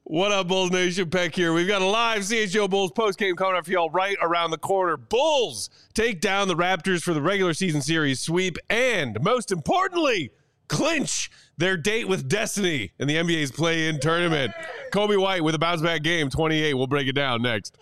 What up, Bulls Nation? Peck here. We've got a live CHGO Bulls postgame coming up for y'all right around the corner. Bulls take down the Raptors for the regular season series sweep and, most importantly, clinch their date with destiny in the NBA's play-in tournament. Coby White with a bounce-back game, 28. We'll break it down next.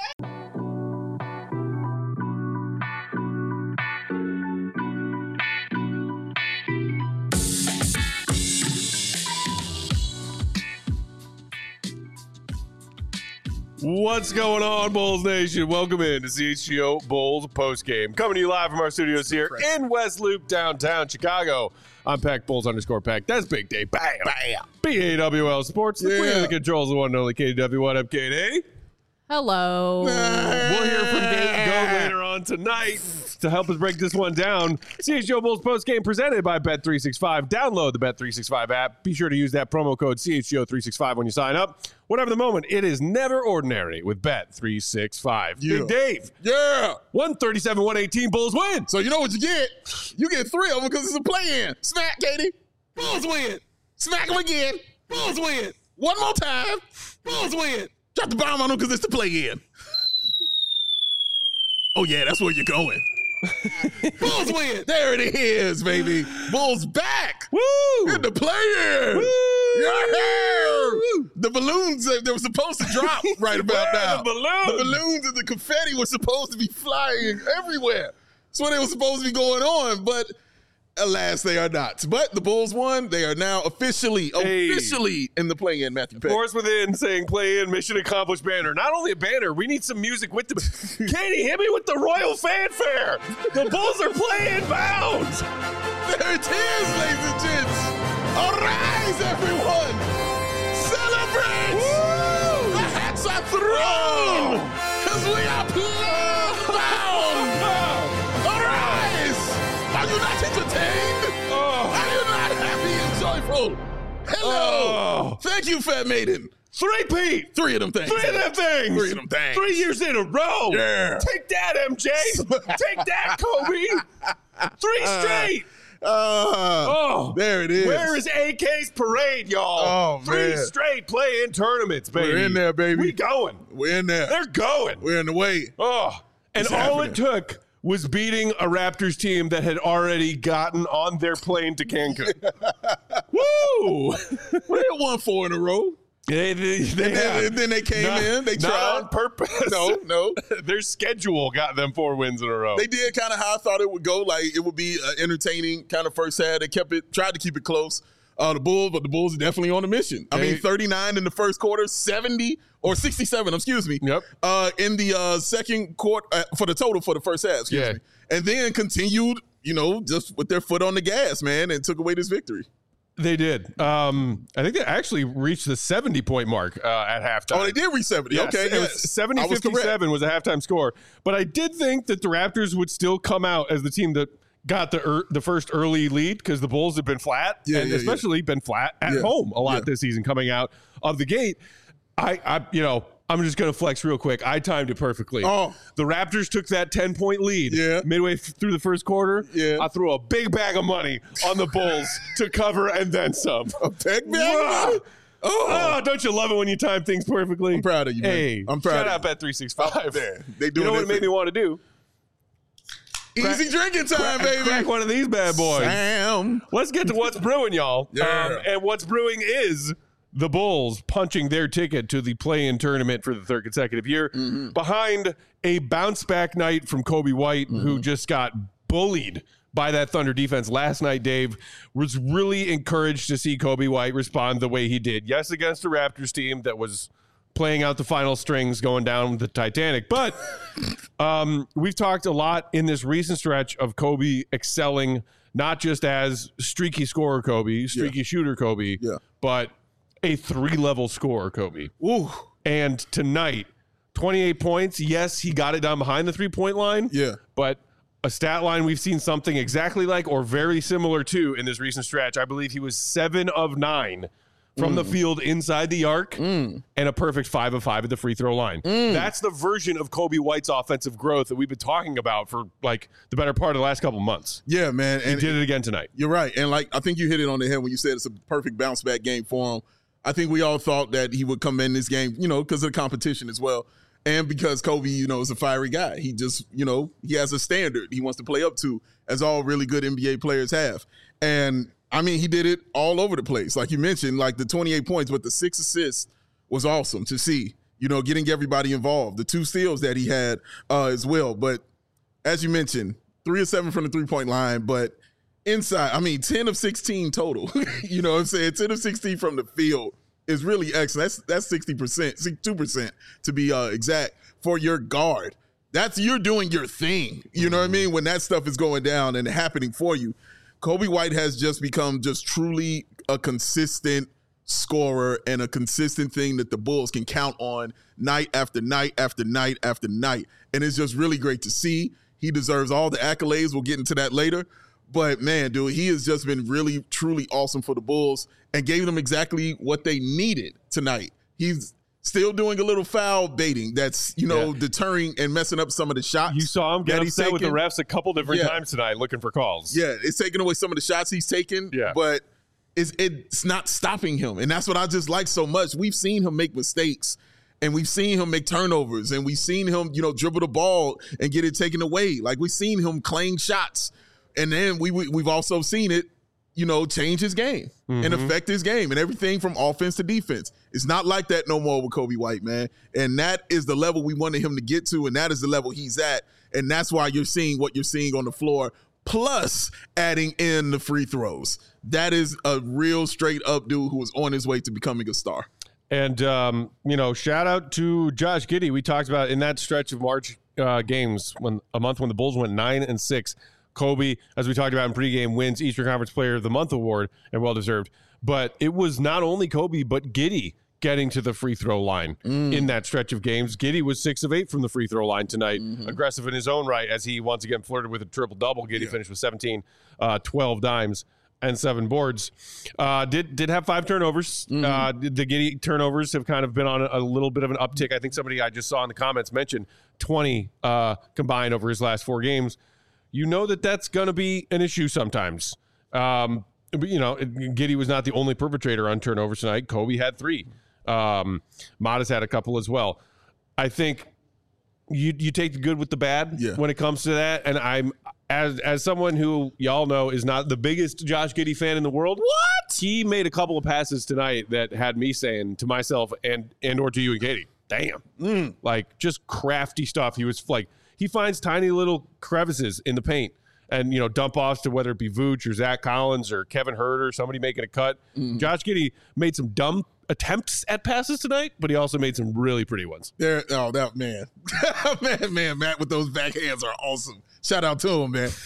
What's going on, Bulls Nation? Welcome in to CHGO Bulls postgame. Coming to you live from our studios here in West Loop, downtown Chicago. I'm Peck, Bulls_Peck. That's Big Day. Bam. Bam. BAWL Sports. The queen of the controls, the one and only KW. What up, KD? Hello. We'll hear from Dave Go later on tonight to help us break this one down. CHGO Bulls postgame presented by Bet365. Download the Bet365 app. Be sure to use that promo code CHGO365 when you sign up. Whatever the moment, it is never ordinary with Bet365. Yeah. Big Dave. Yeah. 137-118 Bulls win. So you know what you get? You get three of them because it's a play-in. Smack, Katie. Bulls win. Smack them again. Bulls win. One more time. Bulls win. Drop the bomb on them because it's the play-in. Oh, yeah, that's where you're going. Bulls win. There it is, baby. Bulls back. Woo! In the play-in. Woo! Yeah. The balloons that were supposed to drop right about now. The balloons? The balloons and the confetti were supposed to be flying everywhere. That's what they were supposed to be going on, but alas, they are not. But the Bulls won. They are now officially in the play-in, Matthew Peck. Force within saying play in, mission accomplished banner. Not only a banner, we need some music with the... Katie, hit me with the royal fanfare. The Bulls are playing bound. There it is, ladies and gents. Arise, everyone. Celebrate. Woo! The hats are thrown because we are bound. Arise. Are you not entertained? Are you not happy and joyful? Hello. Thank you, Fat Maiden. Three-peat. Three of them things. Three of them things. 3 years in a row. Yeah. Take that, MJ. Take that, Kobe. 3 straight. There it is. Where is AK's parade, y'all? Oh, 3 man. straight play-in tournaments, baby. We're in there, baby. We going. We're in there. They're going. We're in the way. And It's all happening. it took was beating a Raptors team that had already gotten on their plane to Cancun. Woo! Well, they won 4 in a row. They And then they came in. They not tried. on purpose. No. Their schedule got them 4 wins in a row. They did kind of how I thought it would go. Like it would be entertaining kind of first half. They tried to keep it close. The Bulls are definitely on a mission. I mean, 39 in the first quarter, 67, excuse me. Yep. In the second quarter for the total for the first half, excuse me. And then continued, just with their foot on the gas, man, and took away this victory. They did. I think they actually reached the 70-point mark at halftime. Oh, they did reach 70. Yes, Okay, it was 70-57 was a halftime score. But I did think that the Raptors would still come out as the team that got the first early lead because the Bulls have been flat, especially been flat at home a lot this season coming out of the gate. I'm just going to flex real quick. I timed it perfectly. Oh. The Raptors took that 10-point lead midway through the first quarter. Yeah. I threw a big bag of money on the Bulls to cover and then some. A big bag of money? Oh, don't you love it when you time things perfectly? I'm proud of you, man. Hey, I'm proud shout of out Bet365. They do you know what it made me want to do? Easy drinking time, baby. Crack one of these bad boys. Sam. Let's get to what's brewing, y'all. Yeah. And what's brewing is the Bulls punching their ticket to the play-in tournament for the 3rd consecutive year behind a bounce-back night from Coby White, who just got bullied by that Thunder defense last night. Dave was really encouraged to see Coby White respond the way he did. Yes, against a Raptors team that was playing out the final strings going down the Titanic. But we've talked a lot in this recent stretch of Coby excelling, not just as streaky scorer Coby, streaky shooter Coby, but a 3-level scorer Coby. Ooh. And tonight, 28 points. Yes, he got it down behind the 3-point line. Yeah. But a stat line we've seen something exactly like or very similar to in this recent stretch. I believe he was 7 of 9 from the field inside the arc and a perfect 5 of 5 at the free throw line. That's the version of Coby White's offensive growth that we've been talking about for like the better part of the last couple months. Yeah, man. And he did it again tonight. You're right. And like, I think you hit it on the head when you said it's a perfect bounce back game for him. I think we all thought that he would come in this game, because of the competition as well. And because Kobe, is a fiery guy. He just, he has a standard he wants to play up to, as all really good NBA players have. And, he did it all over the place. Like you mentioned, like the 28 points, but the 6 assists was awesome to see, getting everybody involved. The 2 steals that he had as well. But as you mentioned, 3 of 7 from the three-point line, but inside, 10 of 16 total. You know what I'm saying? 10 of 16 from the field is really excellent. That's 60%, 62% to be exact for your guard. You're doing your thing. You know what I mean? When that stuff is going down and happening for you. Coby White has just become just truly a consistent scorer and a consistent thing that the Bulls can count on night after night after night after night. And it's just really great to see. He deserves all the accolades. We'll get into that later. But, man, dude, he has just been really, truly awesome for the Bulls and gave them exactly what they needed tonight. He's still doing a little foul baiting that's, deterring and messing up some of the shots. You saw him get upset with the refs a couple different times tonight looking for calls. Yeah, it's taking away some of the shots he's taken, but it's not stopping him. And that's what I just like so much. We've seen him make mistakes. And we've seen him make turnovers, and we've seen him, dribble the ball and get it taken away. Like, we've seen him claim shots. And then we've also seen it, change his game and affect his game and everything from offense to defense. It's not like that no more with Coby White, man. And that is the level we wanted him to get to, and that is the level he's at. And that's why you're seeing what you're seeing on the floor, plus adding in the free throws. That is a real straight-up dude who is on his way to becoming a star. And, shout out to Josh Giddey. We talked about in that stretch of March games, when the Bulls went 9-6. Kobe, as we talked about in pregame, wins Eastern Conference Player of the Month award, and well-deserved. But it was not only Kobe, but Giddey getting to the free throw line in that stretch of games. Giddey was 6 of 8 from the free throw line tonight, aggressive in his own right, as he once again flirted with a triple-double. Giddey finished with 17, 12 dimes, and 7 boards. Did have 5 turnovers. The Giddey turnovers have kind of been on a little bit of an uptick. I think somebody I just saw in the comments mentioned 20 combined over his last 4 games. That's going to be an issue sometimes. But, Giddey was not the only perpetrator on turnovers tonight. Kobe had 3. Mata's had a couple as well. I think you take the good with the bad when it comes to that. And I'm, as someone who y'all know is not the biggest Josh Giddey fan in the world. What? He made a couple of passes tonight that had me saying to myself and or to you and Katie, damn. Like, just crafty stuff. He was like, he finds tiny little crevices in the paint and, dump offs to whether it be Vooch or Zach Collins or Kevin Hurt or somebody making a cut. Josh Giddey made some dumb attempts at passes tonight, but he also made some really pretty ones. Man. man, Matt with those backhands are awesome. Shout out to him, man.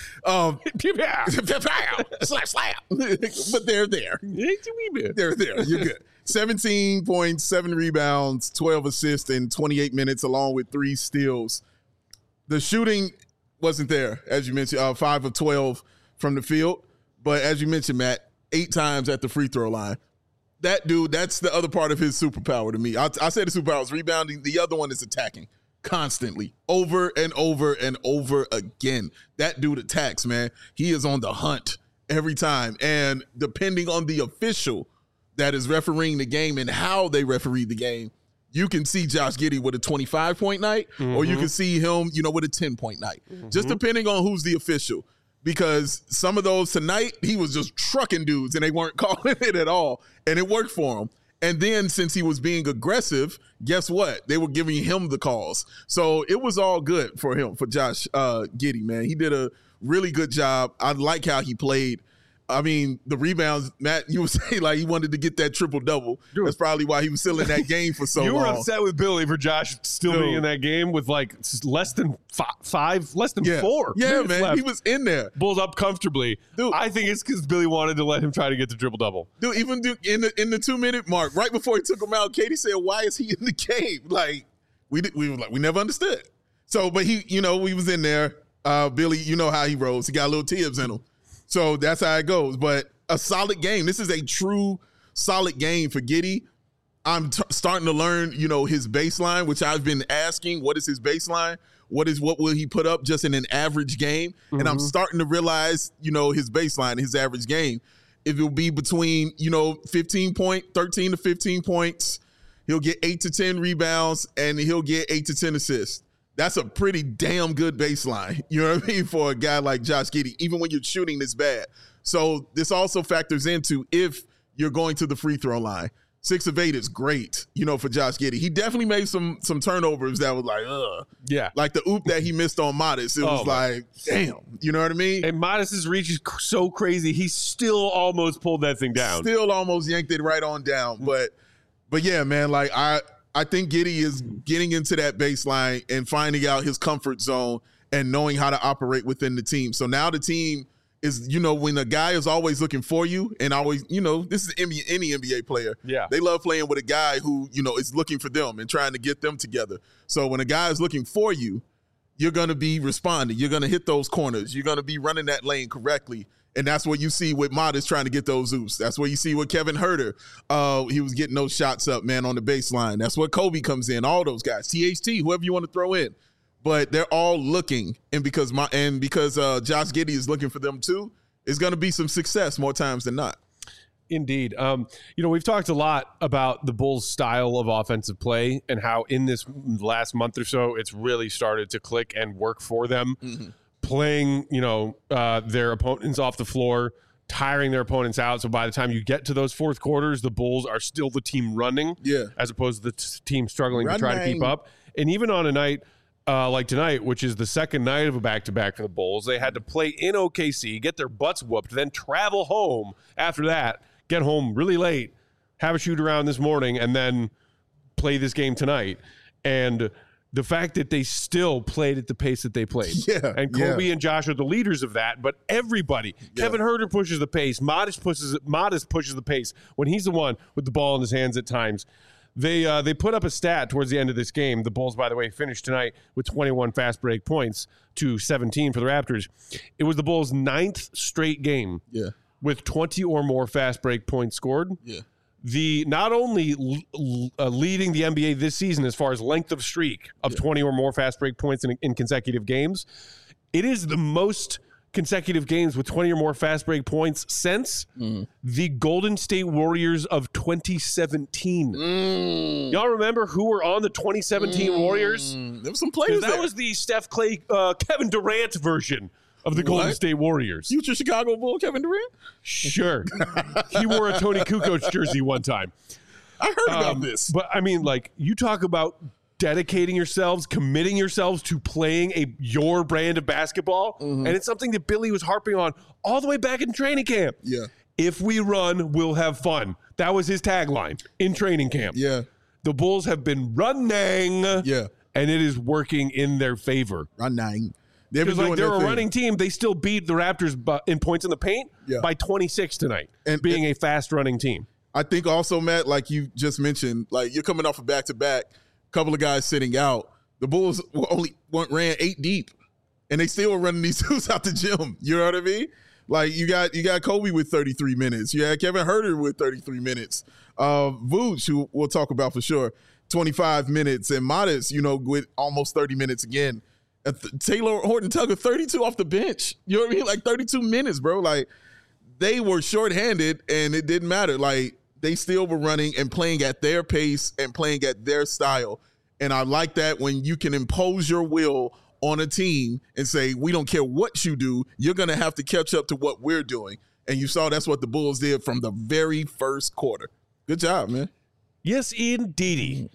Slap. But they're there. They're there. You're good. 17 points, 7 rebounds, 12 assists in 28 minutes, along with 3 steals. The shooting wasn't there, as you mentioned, 5 of 12 from the field. But as you mentioned, Matt, 8 times at the free throw line. That dude, that's the other part of his superpower to me. I say the superpower is rebounding. The other one is attacking constantly, over and over and over again. That dude attacks, man. He is on the hunt every time. And depending on the official that is refereeing the game and how they referee the game, you can see Josh Giddey with a 25-point night, or you can see him, with a 10-point night. Just depending on who's the official. Because some of those tonight, he was just trucking dudes, and they weren't calling it at all. And it worked for him. And then since he was being aggressive, guess what? They were giving him the calls. So it was all good for him, for Josh Giddey, man. He did a really good job. I like how he played. The rebounds, Matt, you would say like he wanted to get that triple-double. That's probably why he was still in that game for so long. You were upset with Billy for Josh still being in that game with like less than 4 Yeah, man, left. he was in there. Bulls up comfortably. Dude, I think it's because Billy wanted to let him try to get the triple-double. Dude, even in the 2-minute mark, right before he took him out, Katie said, why is he in the game? Like, we never understood. So, but he, we was in there. Billy, you know how he rolls. He got little Tibbs in him. So that's how it goes. But a solid game. This is a true solid game for Giddey. I'm starting to learn, his baseline, which I've been asking. What is his baseline? What will he put up just in an average game? And I'm starting to realize, his baseline, his average game. It will be between, 13 to 15 points. He'll get 8 to 10 rebounds, and he'll get 8 to 10 assists. That's a pretty damn good baseline, you know what I mean, for a guy like Josh Giddey, even when you're shooting this bad. So this also factors into if you're going to the free throw line. 6 of 8 is great, for Josh Giddey. He definitely made some turnovers that was like, ugh. Yeah. Like the oop that he missed on Modest. It was like, damn. You know what I mean? And Modest's reach is so crazy. He still almost pulled that thing down. Still almost yanked it right on down. But yeah, man, like I think Giddey is getting into that baseline and finding out his comfort zone and knowing how to operate within the team. So now the team is, when a guy is always looking for you and always, this is any NBA player. Yeah. They love playing with a guy who, is looking for them and trying to get them together. So when a guy is looking for you, you're going to be responding. You're going to hit those corners. You're going to be running that lane correctly. And that's what you see with Modest trying to get those oops. That's what you see with Kevin Huerter. He was getting those shots up, man, on the baseline. That's what Kobe comes in, all those guys. THT, whoever you want to throw in. But they're all looking, and because Josh Giddey is looking for them too, it's going to be some success more times than not. Indeed. We've talked a lot about the Bulls' style of offensive play and how in this last month or so, it's really started to click and work for them. Mm-hmm. Playing, their opponents off the floor, tiring their opponents out. So by the time you get to those fourth quarters, the Bulls are still the team running, as opposed to the team struggling to try to keep up. And even on a night like tonight, which is the second night of a back-to-back for the Bulls, they had to play in OKC, get their butts whooped, then travel home after that, get home really late, have a shoot-around this morning, and then play this game tonight. And the fact that they still played at the pace that they played. Yeah, and Kobe and Josh are the leaders of that, but everybody, Kevin Huerter pushes the pace, Modest pushes the pace when he's the one with the ball in his hands at times. They put up a stat towards the end of this game. The Bulls, by the way, finished tonight with 21 fast break points to 17 for the Raptors. It was the Bulls' 9th straight game with 20 or more fast break points scored. Yeah. The not only leading the NBA this season as far as length of streak of 20 or more fast break points in consecutive games, it is the most consecutive games with 20 or more fast break points since the Golden State Warriors of 2017. Y'all remember who were on the 2017 Warriors? There were some players that was the Steph Clay, Kevin Durant version of the Golden State Warriors. Future Chicago Bull Kevin Durant? Sure. He wore a Tony Kukoc jersey one time. I heard about this. But, I mean, like, you talk about dedicating yourselves, committing yourselves to playing your brand of basketball, and it's something that Billy was harping on all the way back in training camp. Yeah. If we run, we'll have fun. That was his tagline in training camp. Yeah. The Bulls have been running, and it is working in their favor. Running. Because they're a running team, they still beat the Raptors in points in the paint by 26 tonight, and being a fast-running team. I think also, Matt, like you just mentioned, like you're coming off a back-to-back, couple of guys sitting out. The Bulls ran 8 deep, and they still were running these dudes out the gym. You know what I mean? Like you got Kobe with 33 minutes. You had Kevin Huerter with 33 minutes. Vooch, who we'll talk about for sure, 25 minutes, and Modest, with almost 30 minutes again. Taylor Horton-Tucker, 32 off the bench. You know what I mean? Like 32 minutes, bro. Like they were shorthanded, and it didn't matter. Like they still were running and playing at their pace and playing at their style. And I like that when you can impose your will on a team and say, we don't care what you do, you're going to have to catch up to what we're doing. And you saw that's what the Bulls did from the very first quarter. Good job, man. Yes, indeedy.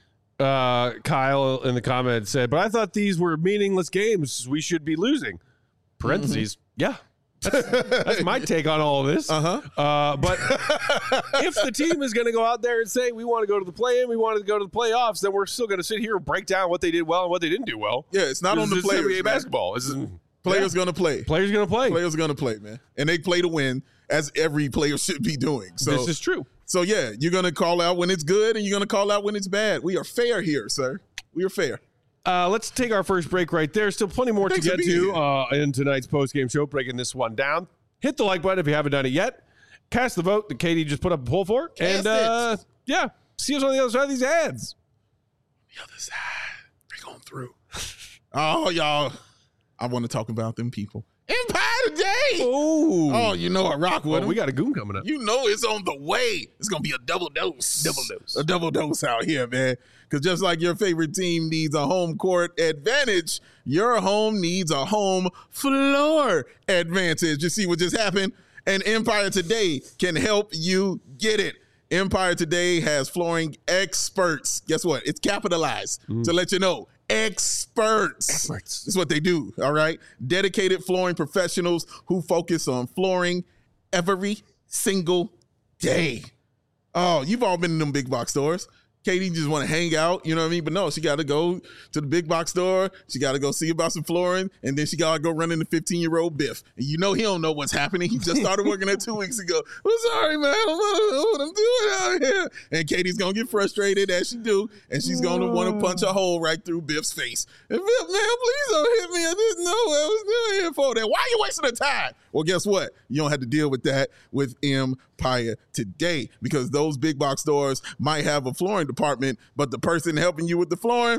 Kyle in the comments said, but I thought these were meaningless games. We should be losing. Parentheses. Yeah. That's my take on all of this. But if the team is going to go out there and say, we want to go to the play-in, we want to go to the playoffs, then we're still going to sit here and break down what they did well and what they didn't do well. Yeah, it's not on the players. NBA basketball. Players going to play. Players going to play. Players going to play, man. And they play to win, as every player should be doing. So this is true. So, yeah, you're going to call out when it's good and you're going to call out when it's bad. We are fair here, sir. We are fair. Let's take our first break right there. Still plenty more to get to in tonight's postgame show, breaking this one down. Hit the like button if you haven't done it yet. Cast the vote that Katie just put up a poll for. See us on the other side of these ads. The other side. We're going through. Oh, y'all. I want to talk about them people. Empire today. Oh, You know I rock with him. we got a goon coming up. You know it's on the way. It's going to be a double dose. A double dose out here, man. Because just like your favorite team needs a home court advantage, your home needs a home floor advantage. You see what just happened? And Empire Today can help you get it. Empire Today has flooring experts. Guess what? It's capitalized to let you know. Experts. That's what they do, all right? Dedicated flooring professionals who focus on flooring every single day. Oh, you've all been in them big box stores. Katie just want to hang out, you know what I mean? But no, she got to go to the big box store. She got to go see about some flooring, and then she got to go run into 15-year-old Biff. And you know he don't know what's happening. He just started working there 2 weeks ago. I'm sorry, man. I don't know what I'm doing out here. And Katie's going to get frustrated, as she do, and she's going to want to punch a hole right through Biff's face. And Biff, man, please don't hit me. I didn't know what I was doing here for that. Why are you wasting the time? Well, guess what? You don't have to deal with that with Empire Today, because those big box stores might have a flooring department, but the person helping you with the flooring,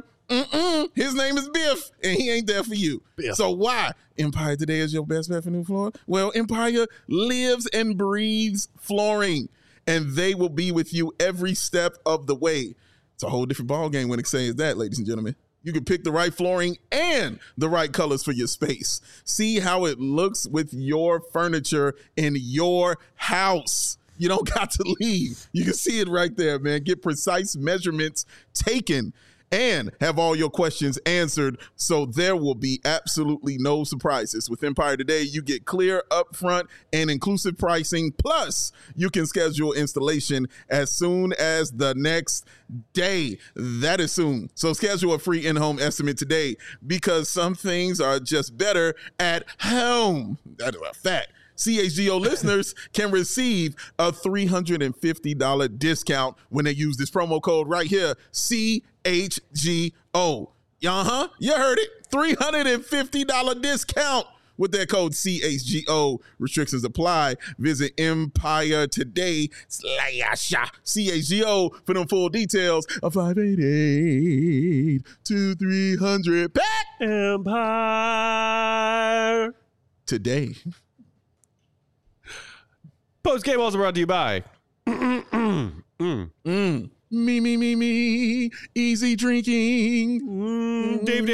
his name is Biff, and he ain't there for you. Biff. So why Empire Today is your best bet for new flooring? Well, Empire lives and breathes flooring, and they will be with you every step of the way. It's a whole different ballgame when it says that, ladies and gentlemen. You can pick the right flooring and the right colors for your space. See how it looks with your furniture in your house. You don't got to leave. You can see it right there, man. Get precise measurements taken and have all your questions answered, so there will be absolutely no surprises. With Empire Today, you get clear, upfront, and inclusive pricing. Plus, you can schedule installation as soon as the next day. That is soon. So schedule a free in-home estimate today, because some things are just better at home. That is a fact. CHGO listeners can receive a $350 discount when they use this promo code right here, CHGO. You heard it. $350 discount with that code CHGO. Restrictions apply. Visit Empire Today /CHGO for them full details. A 588-2300 pack. Empire Today. Post game also brought to you by Me, easy drinking. Dave.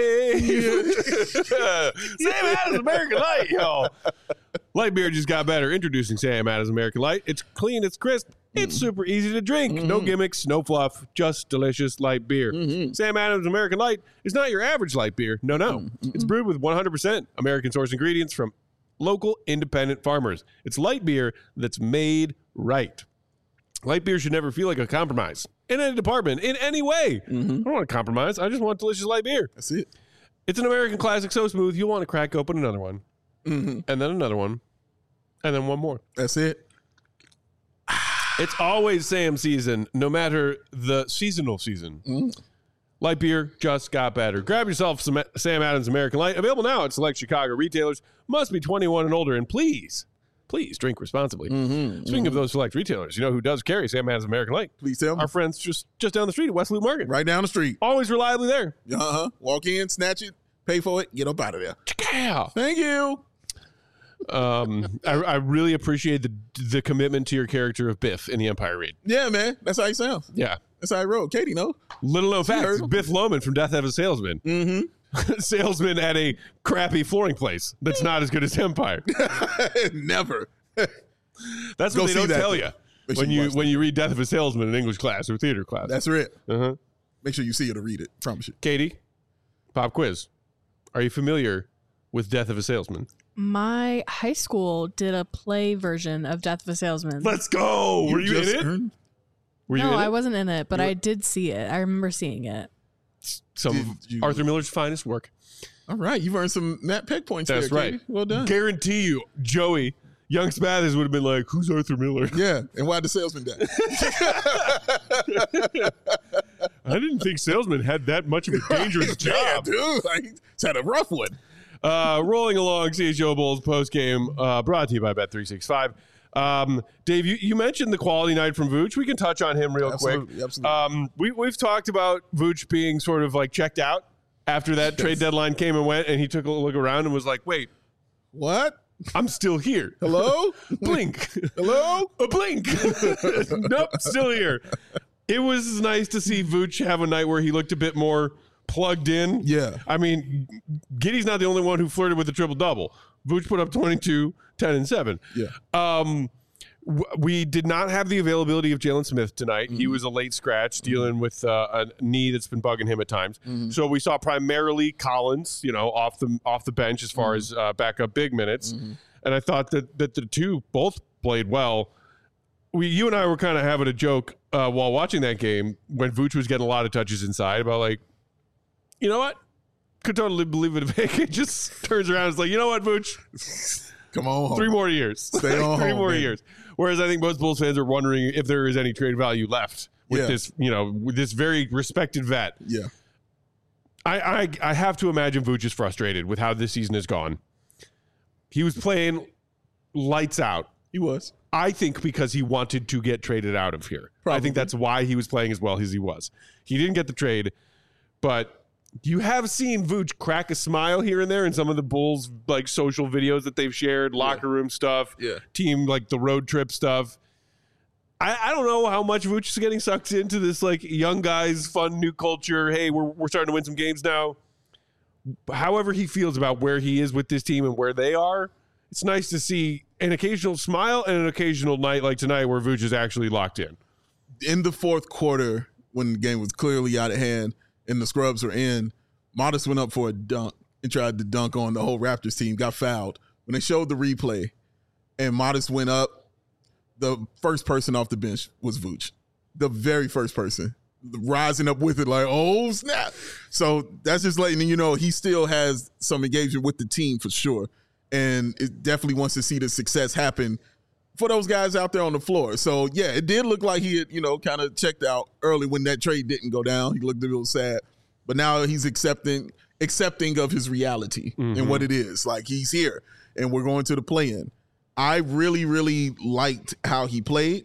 Sam Adams American Light, y'all. Light beer just got better. Introducing Sam Adams American Light. It's clean, it's crisp, it's super easy to drink. No gimmicks, no fluff, just delicious light beer. Sam Adams American Light is not your average light beer. No. It's brewed with 100% American source ingredients from local independent farmers. It's light beer that's made right. Light beer should never feel like a compromise in any department, in any way. I don't want to compromise. I just want delicious light beer. That's it. It's an American classic so smooth, you'll want to crack open another one. And then another one. And then one more. That's it. It's always Sam season, no matter the seasonal season. Light beer just got better. Grab yourself some Sam Adams American Light. Available now at select Chicago retailers. Must be 21 and older. And please drink responsibly. Speaking of those select retailers, you know who does carry Sam Adams American Light? Please tell me. Our friends just down the street at West Loop Market. Right down the street. Always reliably there. Walk in, snatch it, pay for it, get up out of there. Yeah. Thank you. I really appreciate the commitment to your character of Biff in the Empire read. Yeah, man. That's how he sounds. Yeah. That's how I wrote. Katie, no? Little known fact, Biff Loman from Death of a Salesman. Salesman at a crappy flooring place that's not as good as Empire. Never. That's what they don't tell you when you read Death of a Salesman in English class or theater class. That's it. Make sure you see it or read it. Promise you. Katie, pop quiz. Are you familiar with Death of a Salesman? My high school did a play version of Death of a Salesman. Let's go. Were you in it? No, I wasn't in it, but I did see it. I remember seeing it. Some of Arthur Miller's finest work. All right. You've earned some Matt Peck points. That's there, right. Katie. Well done. Guarantee you, Joey, young Spathers would have been like, who's Arthur Miller? Yeah. And why'd the salesman die? I didn't think salesmen had that much of a dangerous job. Dude. It's had a rough one. Rolling along, CHGO Bulls post game, brought to you by Bet365. Dave, you mentioned the quality night from Vooch. We can touch on him real quick. Absolutely. We've talked about Vooch being sort of like checked out after that trade deadline came and went, and he took a look around and was like, wait, What? I'm still here. Hello? Blink. Hello? A blink. Nope, still here. It was nice to see Vooch have a night where he looked a bit more plugged in. Yeah. I mean, Giddey's not the only one who flirted with the triple-double. Vooch put up 22, 10, and 7. Yeah. We did not have the availability of Jalen Smith tonight. He was a late scratch dealing with a knee that's been bugging him at times. So we saw primarily Collins, off the bench as far as backup big minutes. And I thought that the two both played well. You and I were kind of having a joke while watching that game when Vooch was getting a lot of touches inside about like, you know what? Could totally believe it if AK just turns around and is like, you know what, Vooch? Come on home. 3 more years. Stay on 3 home, more man. years. Whereas I think most Bulls fans are wondering if there is any trade value left with this, with this very respected vet. Yeah. I have to imagine Vooch is frustrated with how this season has gone. He was playing lights out. He was. I think because he wanted to get traded out of here. Probably. I think that's why he was playing as well as he was. He didn't get the trade, but you have seen Vooch crack a smile here and there in some of the Bulls like social videos that they've shared, locker room stuff, team like the road trip stuff. I don't know how much Vooch is getting sucked into this like young guys, fun new culture. Hey, we're starting to win some games now. However he feels about where he is with this team and where they are, it's nice to see an occasional smile and an occasional night like tonight where Vooch is actually locked in. In the fourth quarter, when the game was clearly out of hand and the scrubs were in, Modest went up for a dunk and tried to dunk on the whole Raptors team, got fouled. When they showed the replay and Modest went up, the first person off the bench was Vooch. The very first person. Rising up with it like, oh, snap. So that's just letting you know he still has some engagement with the team for sure. And it definitely wants to see the success happen for those guys out there on the floor. So, yeah, it did look like he had, kind of checked out early when that trade didn't go down. He looked a little sad. But now he's accepting of his reality and what it is. Like, he's here, and we're going to the play-in. I really, really liked how he played.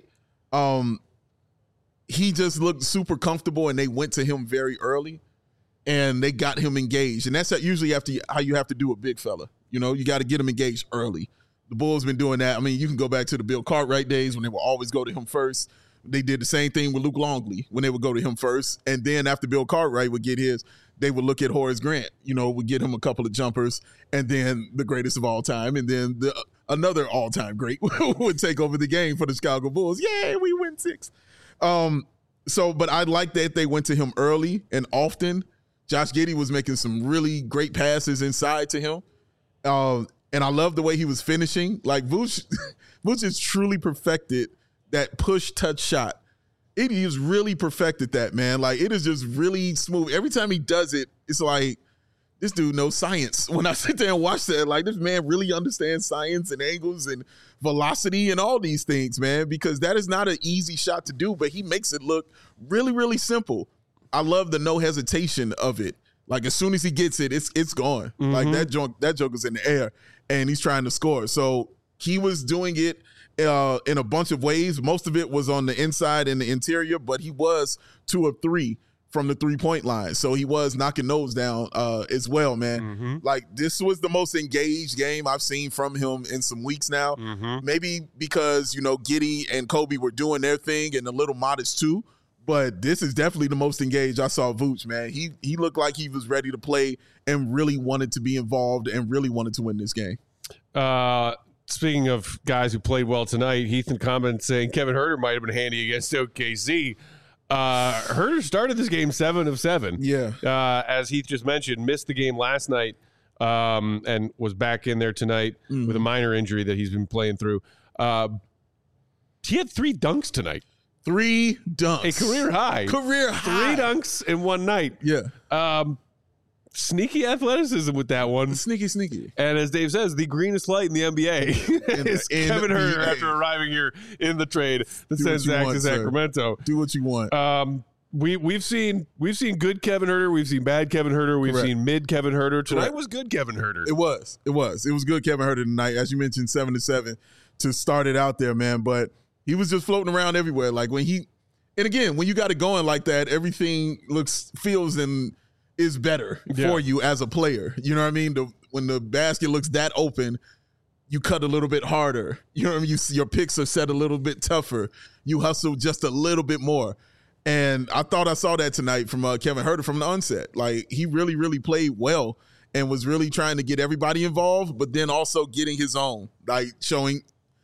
He just looked super comfortable, and they went to him very early, and they got him engaged. And that's usually how you have to do a big fella. You got to get him engaged early. The Bulls been doing that. I mean, you can go back to the Bill Cartwright days when they would always go to him first. They did the same thing with Luke Longley when they would go to him first. And then after Bill Cartwright would get his, they would look at Horace Grant, would get him a couple of jumpers, and then the greatest of all time. And then another all-time great would take over the game for the Chicago Bulls. Yay, we win 6. But I like that they went to him early and often. Josh Giddey was making some really great passes inside to him. And I love the way he was finishing. Like, Vooch has truly perfected that push-touch shot. He has really perfected that, man. Like, it is just really smooth. Every time he does it, it's like, this dude knows science. When I sit there and watch that, like, this man really understands science and angles and velocity and all these things, man, because that is not an easy shot to do, but he makes it look really, really simple. I love the no hesitation of it. Like, as soon as he gets it, it's gone. Like, that joke is in the air, and he's trying to score. So he was doing it in a bunch of ways. Most of it was on the inside and the interior, but he was 2 of 3 from the three-point line. So he was knocking those down as well, man. Like, this was the most engaged game I've seen from him in some weeks now. Maybe because, Giddey and Kobe were doing their thing and a little Modest too. But this is definitely the most engaged I saw Vooch, man. He looked like he was ready to play and really wanted to be involved and really wanted to win this game. Speaking of guys who played well tonight, Heath in comments saying Kevin Huerter might have been handy against OKC. Huerter started this game 7 of 7. Yeah. As Heath just mentioned, missed the game last night and was back in there tonight with a minor injury that he's been playing through. He had 3 dunks tonight. 3 dunks. A career high. 3 dunks in one night. Yeah. Sneaky athleticism with that one. Sneaky. And as Dave says, the greenest light in the NBA is Kevin Huerter after arriving here in the trade that sends Zach to Sacramento. Do what you want. We've seen good Kevin Huerter. We've seen bad Kevin Huerter. We've seen mid Kevin Huerter. Tonight was good Kevin Huerter. It was good Kevin Huerter tonight. As you mentioned, 7 of 7 to start it out there, man. But he was just floating around everywhere. Like when you got it going like that, everything feels and is better for you as a player. You know what I mean? when the basket looks that open, you cut a little bit harder. You know what I mean? Your picks are set a little bit tougher. You hustle just a little bit more. And I thought I saw that tonight from Kevin Huerter from the onset. Like, he really, really played well and was really trying to get everybody involved, but then also getting his own, like showing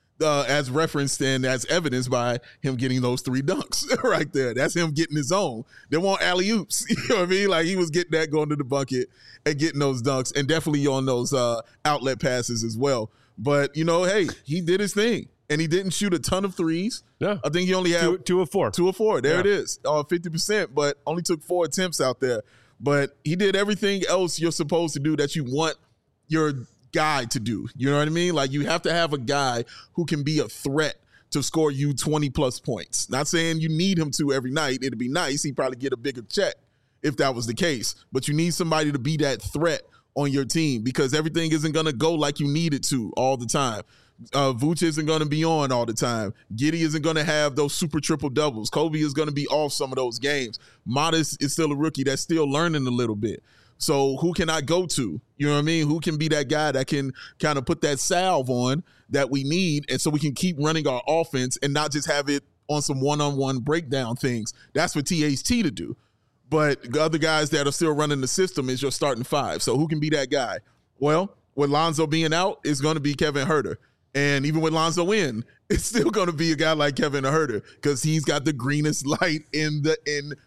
as referenced and as evidenced by him getting those 3 dunks right there. That's him getting his own. They want alley-oops. You know what I mean? Like, he was getting that going to the bucket and getting those dunks, and definitely on those outlet passes as well. But, you know, hey, he did his thing, and he didn't shoot a ton of threes. Yeah. I think he only had 2 of 4. 2 of 4. There it is. 50%, but only took 4 attempts out there. But he did everything else you're supposed to do that you want your guy to do. You know what I mean? Like, you have to have a guy who can be a threat to score you 20-plus points. Not saying you need him to every night. It'd be nice. He'd probably get a bigger check if that was the case. But you need somebody to be that threat on your team, because everything isn't going to go like you need it to all the time. Vooch isn't going to be on all the time. Giddey isn't going to have those super triple doubles. Kobe is going to be off some of those games. Modest is still a rookie that's still learning a little bit. So who can I go to? You know what I mean? Who can be that guy that can kind of put that salve on that we need, and so we can keep running our offense and not just have it on some one-on-one breakdown things. That's for THT to do. But the other guys that are still running the system is your starting 5. So who can be that guy? Well, with Lonzo being out, it's going to be Kevin Huerter. And even with Lonzo in, it's still going to be a guy like Kevin Huerter, because he's got the greenest light in the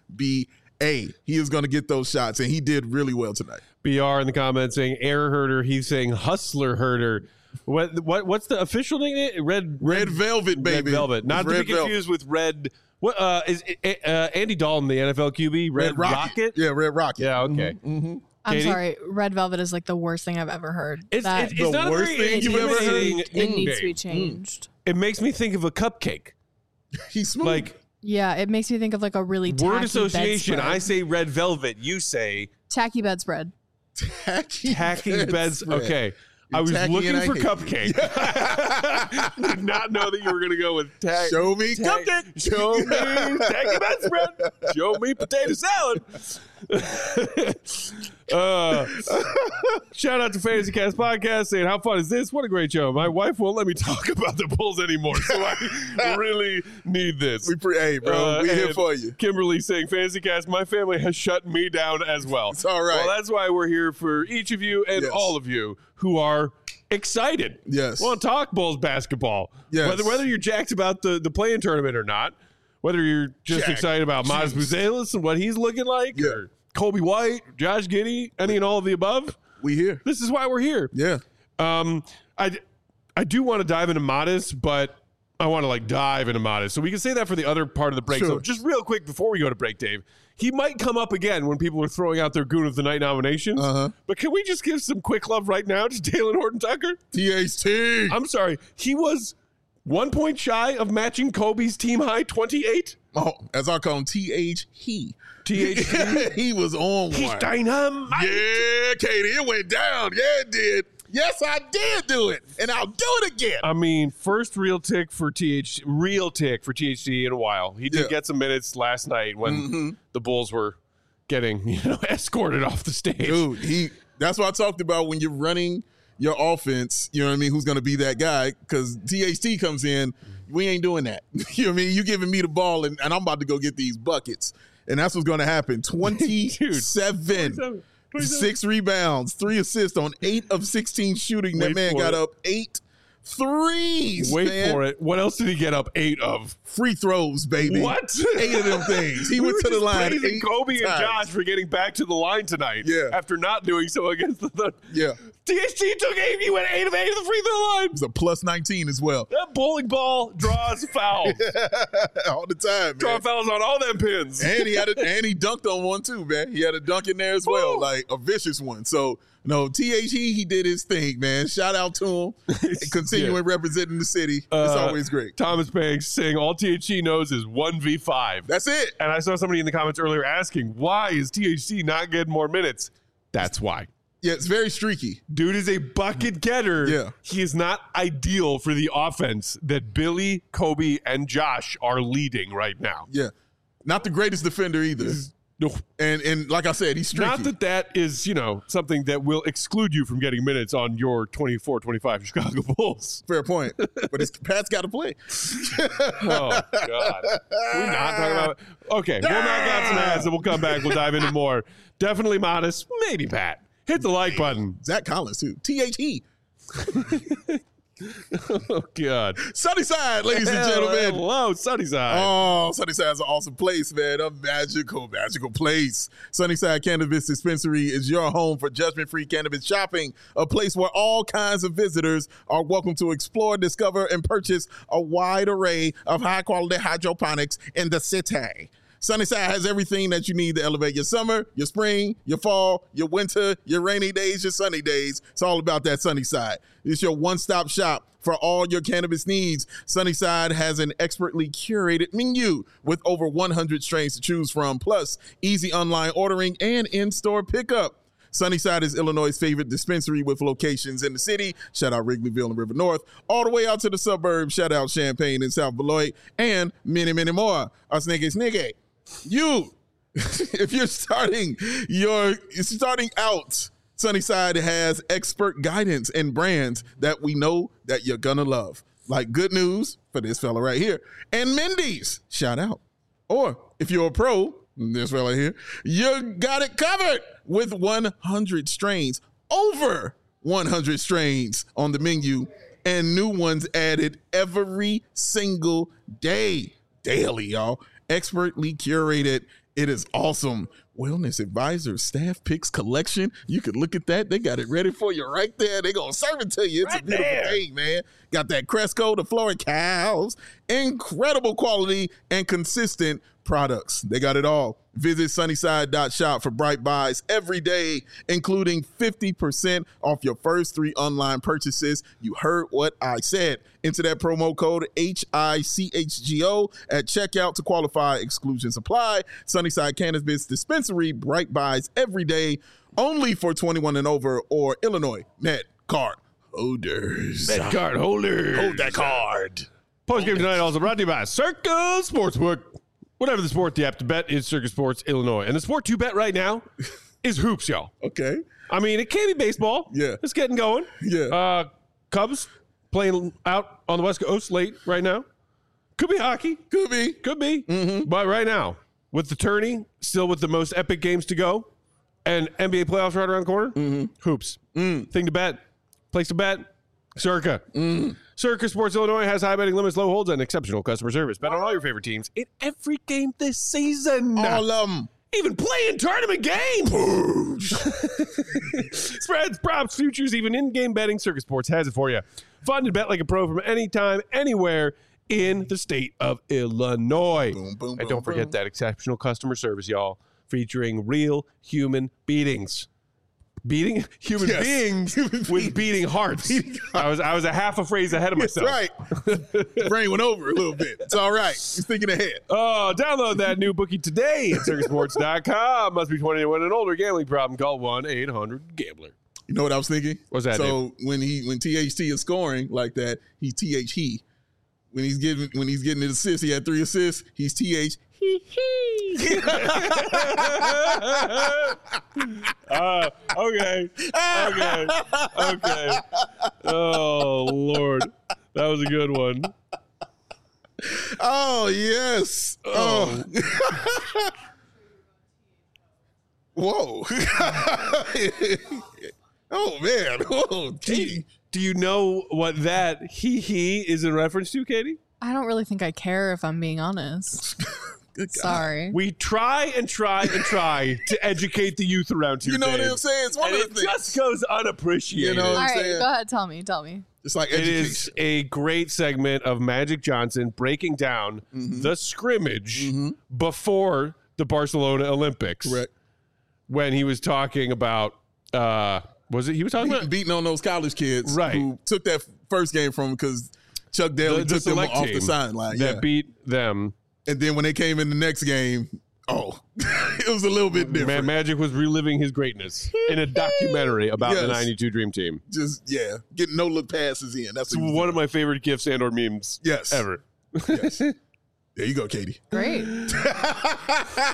NBA. He is going to get those shots, and he did really well tonight. BR in the comments saying Air Herder. He's saying Hustler Herder. What's the official name? Red Velvet, baby. Red Velvet. Not to be confused with Red. What is Andy Dalton, the NFL QB? Red Rocket? Yeah, Red Rocket. Yeah, okay. Mm-hmm. I'm sorry. Red Velvet is like the worst thing I've ever heard. It's not the worst a very thing you've ever heard. It needs to be changed. It makes me think of a cupcake. He's smooth. Like, yeah, it makes me think of like a really tacky word association. bedspread. I say Red Velvet. You say tacky bedspread. Tacky bedspread. Okay. I was looking for cupcake. Did not know that you were going to go with Show me cupcake. Show me tacky bedspread. Show me potato salad. Shout out to Fantasy Cast Podcast saying, how fun is this? What a great show. My wife won't let me talk about the Bulls anymore, so I really need this. Hey, bro, we're here for you. Kimberly saying, Fantasy Cast, my family has shut me down as well. It's all right. Well, that's why we're here for each of you and all of you who are excited. Yes. Want to talk Bulls basketball. Yes. Whether you're jacked about the play-in tournament or not, whether you're just excited about Miles Buzelis and what he's looking like, or Kobe White, Josh Giddey, any and all of the above, we here. This is why we're here. Yeah. I do want to dive into Modest, but I want to dive into Modest. So we can say that for the other part of the break. Sure. So just real quick before we go to break, Dave, he might come up again when people are throwing out their Goon of the Night nominations. But can we just give some quick love right now to Talen Horton-Tucker? THT. I'm sorry. He was 1 point shy of matching Kobe's team high 28. Oh, as I call him, THT. THT. He was on He's one. dynamite. Yeah, Katie, it went down. Yeah, it did. Yes, I did do it, and I'll do it again. I mean, first real tick for THT in a while. He did get some minutes last night when the Bulls were getting escorted off the stage. Dude, that's what I talked about when you're running your offense, you know what I mean, who's going to be that guy, because THT comes in, we ain't doing that. You know what I mean? You giving me the ball, and I'm about to go get these buckets, and that's what's going to happen. 27. 6 rebounds, 3 assists on 8 of 16 shooting. That man got up 8 threes. Wait for it. What else did he get up 8 of? Free throws, baby. What? 8 of them things. He went to the line. Praising Kobe and Josh for getting back to the line tonight. Yeah. After not doing so against the Thunder. Yeah. THT took 8. He went 8 of 8 of the free throw line. It was a plus 19 as well. That bowling ball draws fouls. All the time, man. Draw fouls on all them pins. And he dunked on one too, man. He had a dunk in there as well, like a vicious one. So, no, THT, he did his thing, man. Shout out to him. Continuing representing the city. It's always great. Thomas Banks saying all THT knows is 1v5. That's it. And I saw somebody in the comments earlier asking, why is THT not getting more minutes? That's why. Yeah, it's very streaky. Dude is a bucket getter. Yeah. He is not ideal for the offense that Billy, Kobe, and Josh are leading right now. Yeah. Not the greatest defender either. No. And like I said, he's streaky. Not that is, something that will exclude you from getting minutes on your 24-25 Chicago Bulls. Fair point. But Pat's got to play. Oh, God. We're not talking about okay, we'll knock out some ads and we'll come back. We'll dive into more. Definitely modest. Maybe Pat. Hit the like button. Zach Collins, too. THE. Oh, God. Sunnyside, ladies and gentlemen. Hello, Sunnyside. Oh, Sunnyside's an awesome place, man. A magical, magical place. Sunnyside Cannabis Dispensary is your home for judgment-free cannabis shopping, a place where all kinds of visitors are welcome to explore, discover, and purchase a wide array of high-quality hydroponics in the city. Sunnyside has everything that you need to elevate your summer, your spring, your fall, your winter, your rainy days, your sunny days. It's all about that Sunnyside. It's your one-stop shop for all your cannabis needs. Sunnyside has an expertly curated menu with over 100 strains to choose from, plus easy online ordering and in-store pickup. Sunnyside is Illinois' favorite dispensary with locations in the city. Shout out Wrigleyville and River North. All the way out to the suburbs. Shout out Champaign and South Beloit. And many, many more. Us niggas. If you're starting out, Sunnyside has expert guidance and brands that we know that you're gonna love. Like Good News for this fella right here. And Mindy's, shout out. Or if you're a pro, this fella here, you got it covered with 100 strains, over 100 strains on the menu, and new ones added every single day. Daily, y'all. Expertly curated. It is awesome. Wellness Advisor Staff Picks Collection. You can look at that. They got it ready for you right there. They're going to serve it to you. It's right a beautiful thing, man. Got that Cresco, the Florida Cows. Incredible quality and consistent products. They got it all. Visit sunnyside.shop for bright buys every day, including 50% off your first 3 online purchases. You heard what I said. Enter that promo code HICHGO at checkout to qualify. Exclusions apply. Sunnyside Cannabis Dispensary, bright buys every day, only for 21 and over or Illinois Met Card holders. Met card holders. Hold that card. Postgame tonight also brought to you by Circa Sportsbook. Whatever the sport you have to bet is Circa Sports Illinois. And the sport to bet right now is hoops, y'all. Okay. I mean, it can be baseball. Yeah. It's getting going. Yeah. Cubs playing out on the West Coast late right now. Could be hockey. Could be. Mm-hmm. But right now, with the tourney, still with the most epic games to go, and NBA playoffs right around the corner, hoops. Thing to bet. Place to bet. Circa. Circa Sports Illinois has high betting limits, low holds, and exceptional customer service. Bet on all your favorite teams in every game this season. All of them. Even playing tournament games. Spreads, props, futures, even in-game betting. Circa Sports has it for you. Fun to bet like a pro from anytime, anywhere in the state of Illinois. Boom, boom, And boom, don't forget boom. that exceptional customer service, y'all, featuring real human beatings. Beating human Yes. beings Human with beings. beating hearts. I was a half a phrase ahead of myself. Right. Brain went over a little bit. It's all right. He's thinking ahead. Oh, download that new bookie today at circusports.com. Must be 21 and older. Gambling problem? Call 1-800-GAMBLER. You know what I was thinking? What's that, So when THT is scoring like that, he's THE. When he's getting an assist, he had 3 assists. He's TH. Okay. Oh, Lord. That was a good one. Oh yes. Oh. Whoa. Oh man. Oh, gee. Do you know what that he is in reference to, Katie? I don't really think I care if I'm being honest. Good God. Sorry. We try to educate the youth around here. You know what babe. I'm saying? It's one And of it the things. just goes unappreciated. You know- All right, saying? go ahead. Tell me. It's like It education. is a great segment of Magic Johnson breaking down the scrimmage before the Barcelona Olympics. Correct. When he was talking about, he was talking about Beating on those college kids Right. who took that first game from him because Chuck Daly the took them select off the team sideline. that Yeah. beat them. And then when they came in the next game, it was a little bit different. Magic was reliving his greatness in a documentary about the Yes. 92 Dream Team. Just, getting no look passes in. That's It's what one of my favorite gifs and or memes Yes. ever. Yes. There you go, Katie. Great.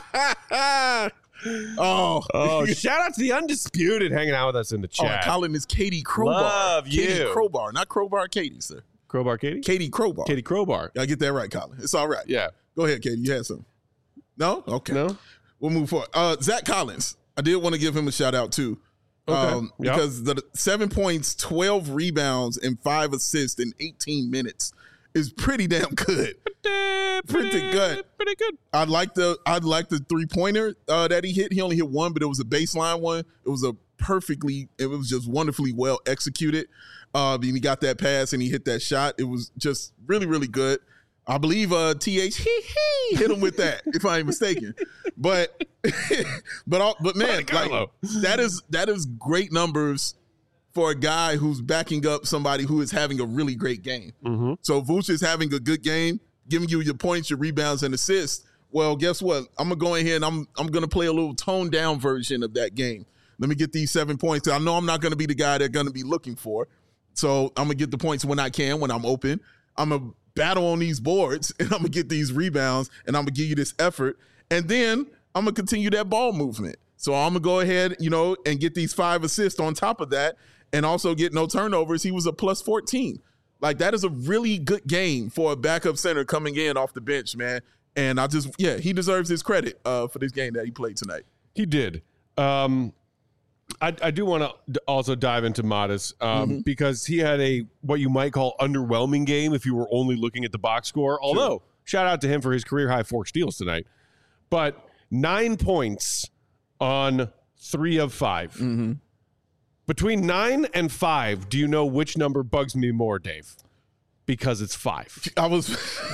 Oh, shout out to the Undisputed hanging out with us in the chat. Colin is Katie Crowbar. Love you. Katie Crowbar, not Crowbar Katie, sir. Crowbar Katie? Katie Crowbar. Katie Crowbar. I get that right, Colin. It's all right. Yeah. Go ahead, Katie. You had something. No? Okay. No? We'll move forward. Zach Collins. I did want to give him a shout out too. Okay. Because the 7 points, 12 rebounds, and 5 assists in 18 minutes is pretty damn good. Pretty good. Pretty good. I'd like the 3-pointer that he hit. He only hit one, but it was a baseline one. It was just wonderfully well executed. He got that pass and he hit that shot. It was just really, really good. I believe TH hit him with that, if I ain't mistaken. But man, like, that is great numbers for a guy who's backing up somebody who is having a really great game. Mm-hmm. So Vooch is having a good game, giving you your points, your rebounds, and assists. Well, guess what? I'm gonna go ahead and I'm gonna play a little toned down version of that game. Let me get these 7 points. I know I'm not gonna be the guy they're gonna be looking for. So I'm gonna get the points when I can, when I'm open. I'm gonna battle on these boards and I'm gonna get these rebounds and I'm gonna give you this effort. And then I'm gonna continue that ball movement. So I'm gonna go ahead, and get these 5 assists on top of that and also get no turnovers. He was a plus 14. Like, that is a really good game for a backup center coming in off the bench, man. And he deserves his credit for this game that he played tonight. He did. I do want to also dive into Modest because he had what you might call underwhelming game if you were only looking at the box score. Although, shout out to him for his career high 4 steals tonight. But 9 points on 3 of 5. Mm-hmm. Between 9 and 5, do you know which number bugs me more, Dave? Because it's 5. I was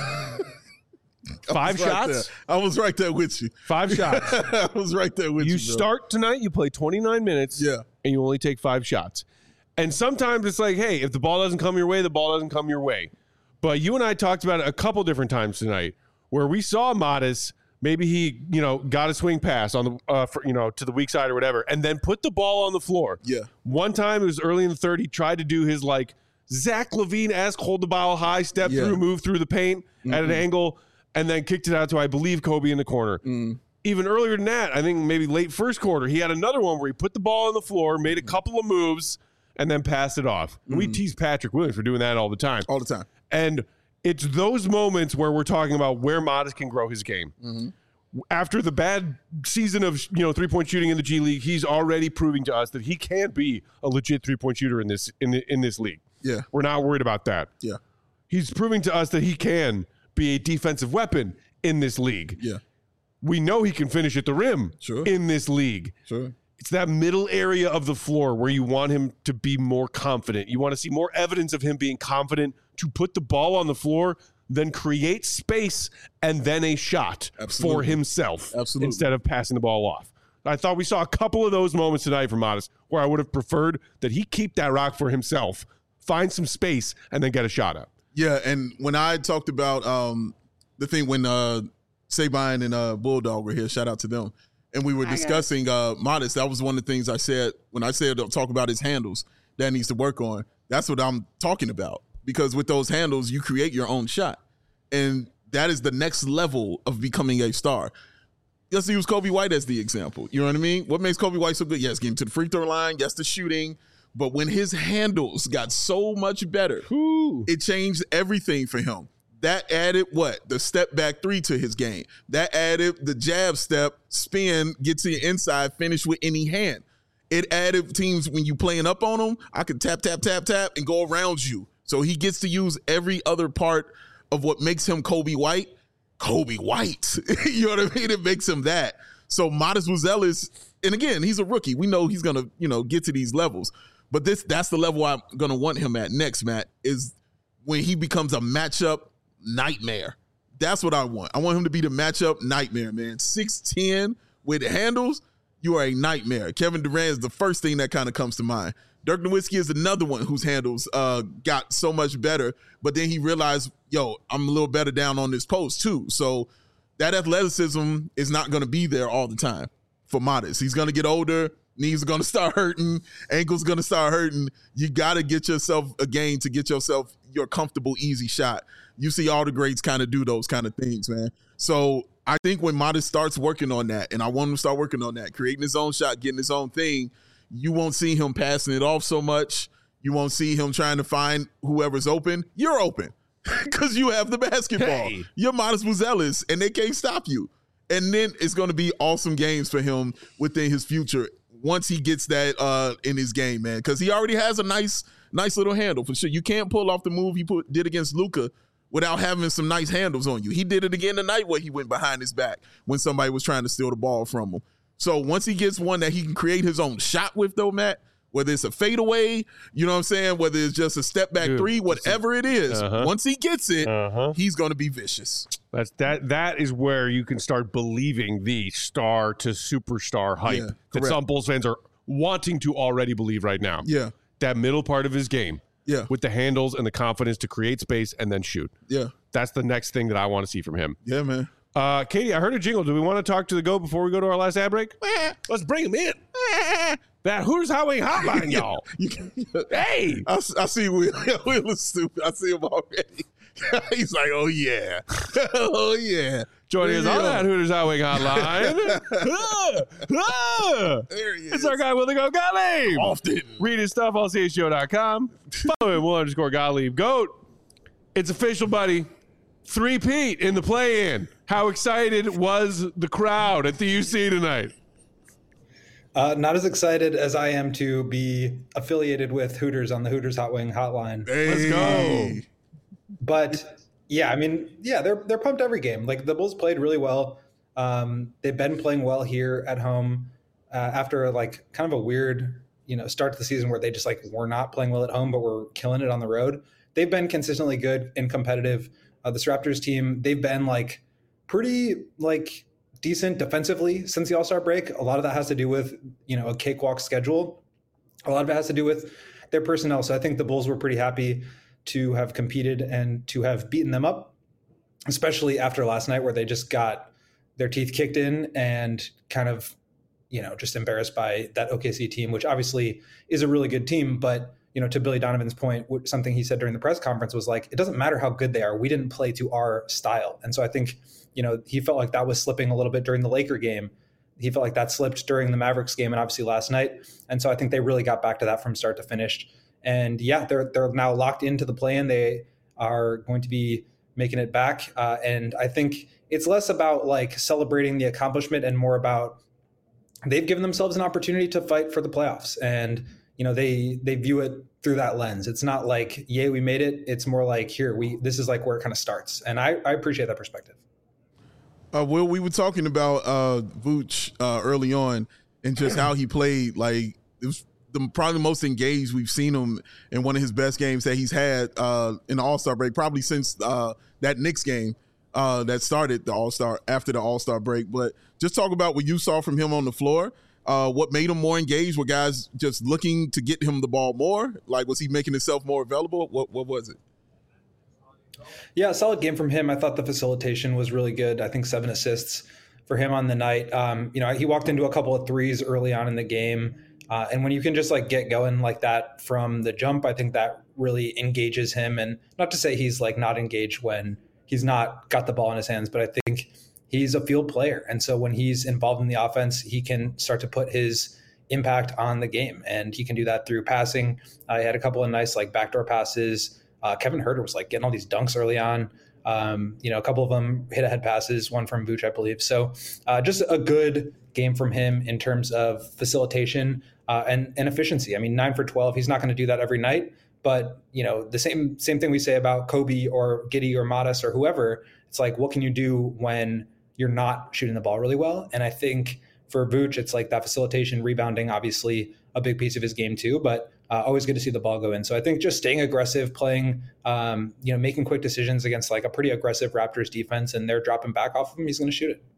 5 shots? I was right there with you. 5 shots. I was right there with you. You start tonight, you play 29 minutes, and you only take 5 shots. And sometimes it's like, hey, if the ball doesn't come your way, the ball doesn't come your way. But you and I talked about it a couple different times tonight where we saw Modest. Maybe he, got a swing pass on the, to the weak side or whatever, and then put the ball on the floor. Yeah. One time, it was early in the third, he tried to do his, Zach LaVine-esque hold the ball high, step through, move through the paint at an angle, and then kicked it out to, I believe, Kobe in the corner. Even earlier than that, I think maybe late first quarter, he had another one where he put the ball on the floor, made a couple of moves, and then passed it off. We tease Patrick Williams for doing that all the time. All the time. And it's those moments where we're talking about where Modest can grow his game. After the bad season of 3-point shooting in the G League, he's already proving to us that he can be a legit 3-point shooter in this league. Yeah, we're not worried about that. Yeah, he's proving to us that he can be a defensive weapon in this league. Yeah, we know he can finish at the rim in this league. Sure. It's that middle area of the floor where you want him to be more confident. You want to see more evidence of him being confident to put the ball on the floor, then create space and then a shot for himself instead of passing the ball off. I thought we saw a couple of those moments tonight from Modest where I would have preferred that he keep that rock for himself, find some space, and then get a shot up. Yeah, and when I talked about the thing when Sabine and Bulldog were here, shout out to them, and we were discussing Modest, that was one of the things I said when I said talk about his handles that needs to work on. That's what I'm talking about. Because with those handles, you create your own shot. And that is the next level of becoming a star. Let's use Kobe White as the example. You know what I mean? What makes Kobe White so good? Yes, getting to the free throw line. Yes, the shooting. But when his handles got so much better, it changed everything for him. That added what? The step back 3 to his game. That added the jab step, spin, get to your inside, finish with any hand. It added teams when you playing up on them, I could tap, tap, tap, tap, and go around you. So he gets to use every other part of what makes him Kobe White. Kobe White. You know what I mean? It makes him that. So Modest Buzelis, and again, he's a rookie. We know he's going to, get to these levels. But that's the level I'm going to want him at next, Matt, is when he becomes a matchup nightmare. That's what I want. I want him to be the matchup nightmare, man. 6'10" with handles, you are a nightmare. Kevin Durant is the first thing that kind of comes to mind. Dirk Nowitzki is another one whose handles got so much better, but then he realized, I'm a little better down on this post too. So that athleticism is not going to be there all the time for Modest. He's going to get older. Knees are going to start hurting. Ankles going to start hurting. You got to get yourself a game to get yourself your comfortable, easy shot. You see all the greats kind of do those kind of things, man. So I think when Modest starts working on that, and I want him to start working on that, creating his own shot, getting his own thing, you won't see him passing it off so much. You won't see him trying to find whoever's open. You're open because you have the basketball. Hey. You're Modest Buzelis, and they can't stop you. And then it's going to be awesome games for him within his future once he gets that in his game, man, because he already has a nice little handle for sure. You can't pull off the move he did against Luka without having some nice handles on you. He did it again tonight where he went behind his back when somebody was trying to steal the ball from him. So once he gets one that he can create his own shot with, though, Matt, whether it's a fadeaway, you know what I'm saying, whether it's just a step back three, whatever it is, once he gets it, he's going to be vicious. That is where you can start believing the star to superstar hype that some Bulls fans are wanting to already believe right now. Yeah. That middle part of his game. Yeah. With the handles and the confidence to create space and then shoot. Yeah. That's the next thing that I want to see from him. Yeah, man. Katie, I heard a jingle. Do we want to talk to the GOAT before we go to our last ad break? Let's bring him in. That Hooters Hot Wing Hotline, y'all. Hey. I see Will. Will is stupid. I see him already. He's like, oh, yeah. Oh, yeah. Joining us on that Hooters Hot Wing Hotline. There he is. It's our guy, Will the Goat Gottlieb. Often. Read his stuff on CHGO.com. Follow him, Will_Gottlieb. GOAT. It's official, buddy. 3-peat in the play-in. How excited was the crowd at the UC tonight? Not as excited as I am to be affiliated with Hooters on the Hooters Hot Wing Hotline. Hey. Let's go. But yeah, I mean, yeah, they're pumped every game. Like the Bulls played really well. They've been playing well here at home after like kind of a weird, start to the season where they just like were not playing well at home, but were killing it on the road. They've been consistently good and competitive. This Raptors team, they've been like pretty like decent defensively since the All-Star break. A lot of that has to do with, a cakewalk schedule. A lot of it has to do with their personnel. So I think the Bulls were pretty happy to have competed and to have beaten them up, especially after last night where they just got their teeth kicked in and kind of, just embarrassed by that OKC team, which obviously is a really good team. But, to Billy Donovan's point, something he said during the press conference was like, it doesn't matter how good they are. We didn't play to our style. And so I think, he felt like that was slipping a little bit during the Laker game. He felt like that slipped during the Mavericks game and obviously last night. And so I think they really got back to that from start to finish. And yeah, they're now locked into the play-in. They are going to be making it back. And I think it's less about like celebrating the accomplishment and more about they've given themselves an opportunity to fight for the playoffs. And, they view it through that lens. It's not like, yay, we made it. It's more like, this is like where it kind of starts. And I appreciate that perspective. Will, we were talking about Vooch early on and just how he played. Like, it was probably the most engaged we've seen him in one of his best games that he's had in the All-Star break, probably since that Knicks game that started the All-Star after the All-Star break. But just talk about what you saw from him on the floor. What made him more engaged? Were guys just looking to get him the ball more? Like, was he making himself more available? What was it? Yeah, solid game from him. I thought the facilitation was really good. I think 7 assists for him on the night. He walked into a couple of threes early on in the game. And when you can just like get going like that from the jump, I think that really engages him. And not to say he's like not engaged when he's not got the ball in his hands, but I think he's a field player. And so when he's involved in the offense, he can start to put his impact on the game. And he can do that through passing. He had a couple of nice like backdoor passes. Kevin Huerter was like getting all these dunks early on. A couple of them hit ahead passes, one from Vooch, I believe. So just a good game from him in terms of facilitation and efficiency. I mean, 9 for 12. He's not going to do that every night, but the same thing we say about Kobe or Giddey or Modest or whoever. It's like, what can you do when you're not shooting the ball really well? And I think for Vooch, it's like that facilitation, rebounding, obviously a big piece of his game too, but always good to see the ball go in. So I think just staying aggressive, playing, making quick decisions against like a pretty aggressive Raptors defense, and they're dropping back off of him, he's going to shoot it.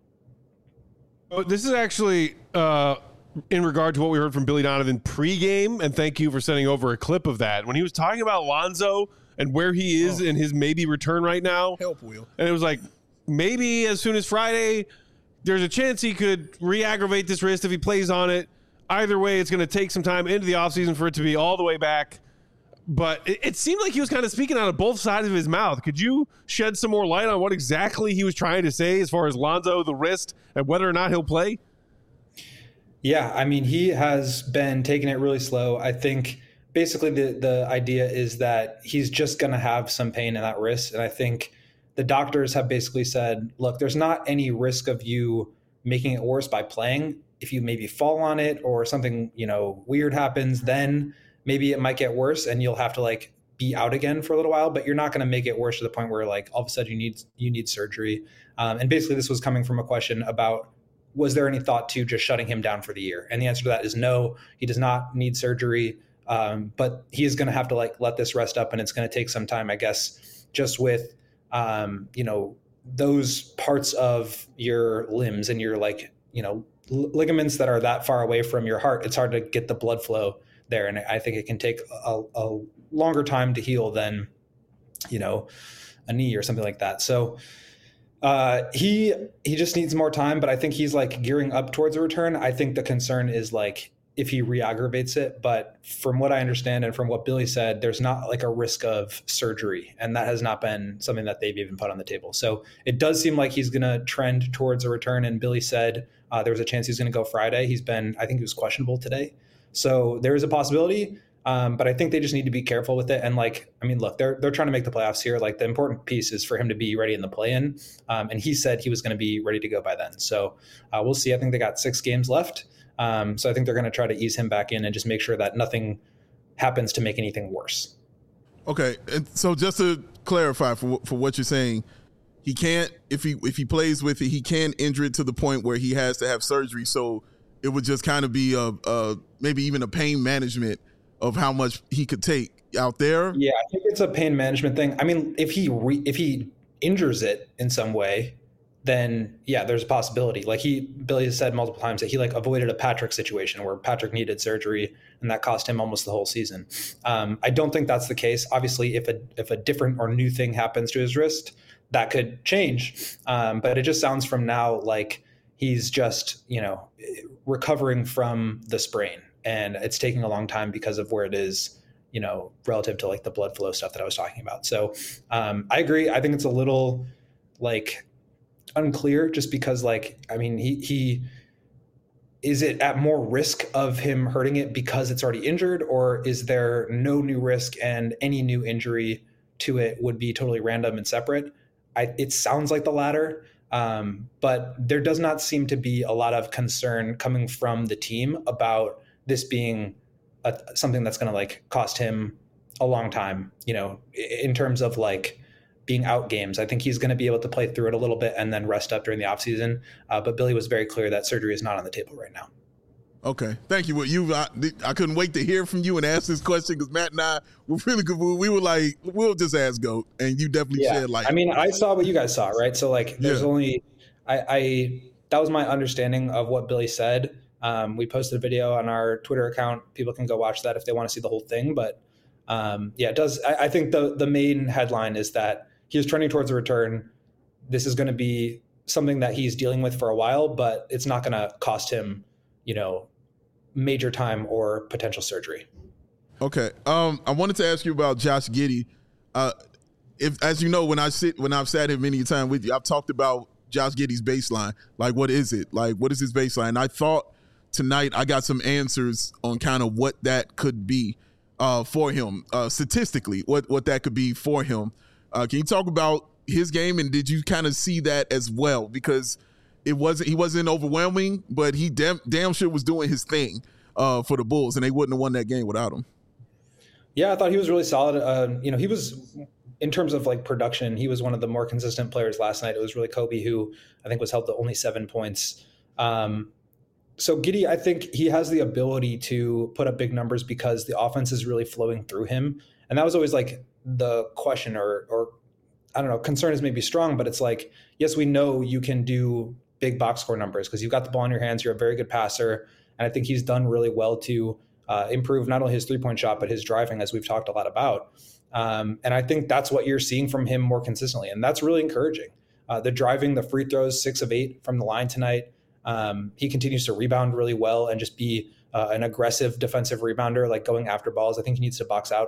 Oh, this is actually in regard to what we heard from Billy Donovan pregame, and thank you for sending over a clip of that. When he was talking about Lonzo and where he is in his maybe return right now. Help, Will. And it was like, maybe as soon as Friday, there's a chance he could re-aggravate this wrist if he plays on it. Either way, it's going to take some time into the offseason for it to be all the way back. But it seemed like he was kind of speaking out of both sides of his mouth. Could you shed some more light on what exactly he was trying to say as far as Lonzo, the wrist, and whether or not he'll play? Yeah, I mean, he has been taking it really slow. I think basically the idea is that he's just going to have some pain in that wrist. And I think the doctors have basically said, look, there's not any risk of you making it worse by playing. If you maybe fall on it or something, weird happens, then maybe it might get worse and you'll have to like be out again for a little while, but you're not going to make it worse to the point where like all of a sudden you need surgery. And basically this was coming from a question about, was there any thought to just shutting him down for the year? And the answer to that is no, he does not need surgery. But he is going to have to like let this rest up, and it's going to take some time, I guess, just with, those parts of your limbs and your ligaments that are that far away from your heart. It's hard to get the blood flow there. And I think it can take a longer time to heal than, a knee or something like that. So he just needs more time, but I think he's like gearing up towards a return. I think the concern is like if he re-aggravates it, but from what I understand and from what Billy said, there's not like a risk of surgery, and that has not been something that they've even put on the table. So it does seem like he's going to trend towards a return. And Billy said there was a chance he's going to go Friday. I think he was questionable today. So there is a possibility. But I think they just need to be careful with it. And look, they're trying to make the playoffs here. Like the important piece is for him to be ready in the play-in. And he said he was going to be ready to go by then. So we'll see. I think they got 6 games left. So I think they're going to try to ease him back in and just make sure that nothing happens to make anything worse. Okay. And so just to clarify for what you're saying, he can't, if he plays with it, he can injure it to the point where he has to have surgery. So it would just kind of be maybe even a pain management of how much he could take out there. Yeah, I think it's a pain management thing. I mean, if he injures it in some way, then yeah, there's a possibility. Like Billy has said multiple times that he avoided a Patrick situation where Patrick needed surgery and that cost him almost the whole season. I don't think that's the case. Obviously, if a different or new thing happens to his wrist, that could change. But it just sounds from now like he's just, recovering from the sprain. And it's taking a long time because of where it is, relative to like the blood flow stuff that I was talking about. So I agree. I think it's a little unclear just because he is it at more risk of him hurting it because it's already injured, or is there no new risk and any new injury to it would be totally random and separate? It sounds like the latter. But there does not seem to be a lot of concern coming from the team about this being something that's going to cost him a long time, in terms of being out games. I think he's going to be able to play through it a little bit and then rest up during the offseason. But Billy was very clear that surgery is not on the table right now. Okay. Thank you. I couldn't wait to hear from you and ask this question because Matt and I were really good. We were like, we'll just ask GOAT, and you definitely shed light. I mean, I saw what you guys saw, right? So there's only, that was my understanding of what Billy said. We posted a video on our Twitter account. People can go watch that if they want to see the whole thing. But it does. I think the main headline is that he is trending towards a return. This is going to be something that he's dealing with for a while, but it's not going to cost him, major time or potential surgery. Okay. I wanted to ask you about Josh Giddey. As you know, when I've sat here many times with you, I've talked about Josh Giddey's baseline. What is it? What is his baseline? I thought tonight I got some answers on kind of what that could be for him, statistically, what that could be for him. Can you talk about his game, and did you kind of see that as well? Because he wasn't overwhelming, but he damn sure was doing his thing for the Bulls, and they wouldn't have won that game without him. Yeah, I thought he was really solid. He was, in terms of production, he was one of the more consistent players last night. It was really Kobe who I think was held to only 7 points. So Giddey, I think he has the ability to put up big numbers because the offense is really flowing through him. And that was always the question or I don't know, concern is maybe strong, but it's yes, we know you can do big box score numbers because you've got the ball in your hands. You're a very good passer. And I think he's done really well to improve not only his 3-point shot, but his driving, as we've talked a lot about. And I think that's what you're seeing from him more consistently. And that's really encouraging. The driving, the free throws, 6 of 8 from the line tonight. He continues to rebound really well and just be an aggressive defensive rebounder, going after balls. I think he needs to box out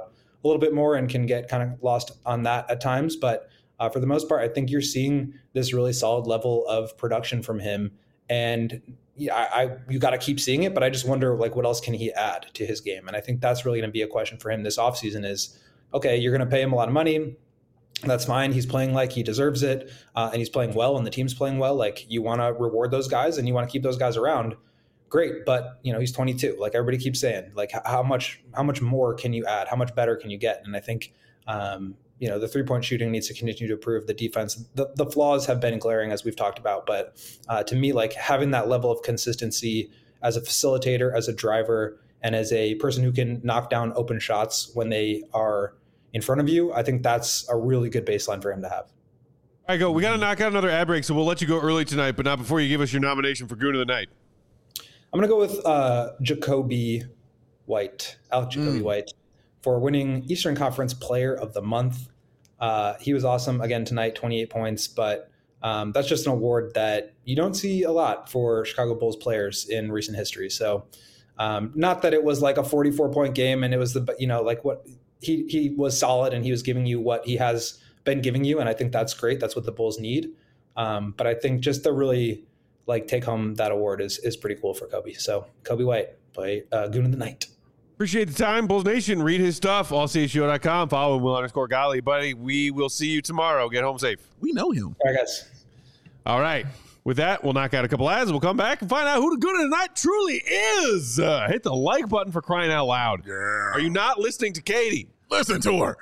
a little bit more and can get kind of lost on that at times. But for the most part, I think you're seeing this really solid level of production from him. And yeah, you got to keep seeing it, but I just wonder, like, what else can he add to his game? And I think that's really going to be a question for him this offseason is, okay, you're going to pay him a lot of money. That's fine. He's playing like he deserves it. And he's playing well and the team's playing well. Like, you want to reward those guys and you want to keep those guys around. Great. But, he's 22. Like everybody keeps saying, like, how much more can you add? How much better can you get? And I think, the 3-point shooting needs to continue to improve. The defense, the flaws have been glaring, as we've talked about. But to me, like, having that level of consistency as a facilitator, as a driver, and as a person who can knock down open shots when they are in front of you, I think that's a really good baseline for him to have. All right, go. We got to knock out another ad break, so we'll let you go early tonight, but not before you give us your nomination for Goon of the Night. I'm going to go with Jacoby White, Alex Jacoby White, for winning Eastern Conference Player of the Month. He was awesome again tonight, 28 points, but that's just an award that you don't see a lot for Chicago Bulls players in recent history. So not that it was like a 44-point game and it was what he was solid and he was giving you what he has been giving you. And I think that's great. That's what the Bulls need. But I think just to really take home that award is pretty cool for Kobe. So Kobe White, play Goon of the Night. Appreciate the time, Bulls Nation. Read his stuff, allchgo.com. Follow Will_Golly. Buddy, we will see you tomorrow. Get home safe. We know him. All right, guys. All right. With that, we'll knock out a couple ads. We'll come back and find out who the Goon of the Night truly is. Hit the like button for crying out loud. Yeah. Are you not listening to Katie? Listen to her.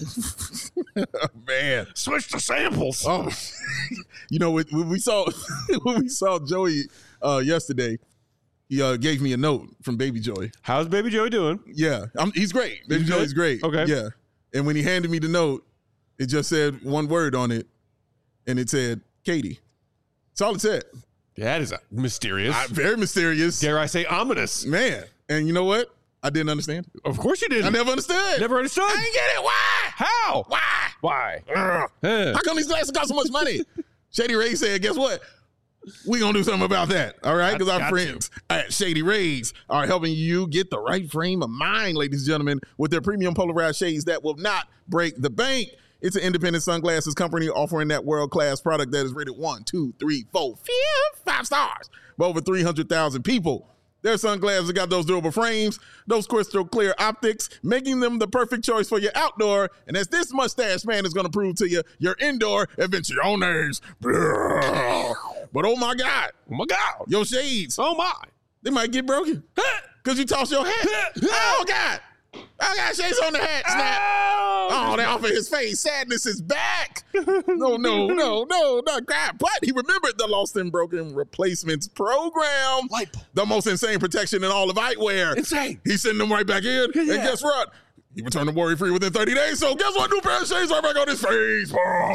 Man. Switch the samples. Oh. When we saw Joey yesterday, he gave me a note from Baby Joey. How's Baby Joey doing? Yeah, he's great. Baby Joey's great. Okay. Yeah. And when he handed me the note, it just said one word on it, and it said, Katie. That's all it said. That is mysterious. Very mysterious. Dare I say ominous. Man. And you know what? I didn't understand. Of course you didn't. I never understood. Never understood? I didn't get it. Why? How? Why? Why? How come these glasses cost so much money? Shady Rays said, guess what? We gonna do something about that, all right? Because our friends at Shady Rays are helping you get the right frame of mind, ladies and gentlemen, with their premium polarized shades that will not break the bank. It's an independent sunglasses company offering that world-class product that is rated 1, 2, 3, 4, 5 stars by over 300,000 people. Their sunglasses got those durable frames, those crystal clear optics, making them the perfect choice for your outdoor. And as this mustache man is going to prove to you, your indoor adventures. But oh my God, your shades, Oh my. they might get broken because you toss your hat. Oh God, I got shades on the hat. Snap. Oh, they off of his face. Sadness is back. No, not God. But he remembered the Lost and Broken Replacements program. The most insane protection in all of eyewear. Insane. He sent them right back in. And guess what? He returned them worry-free within 30 days. So guess what? New pair of shades are back on his face.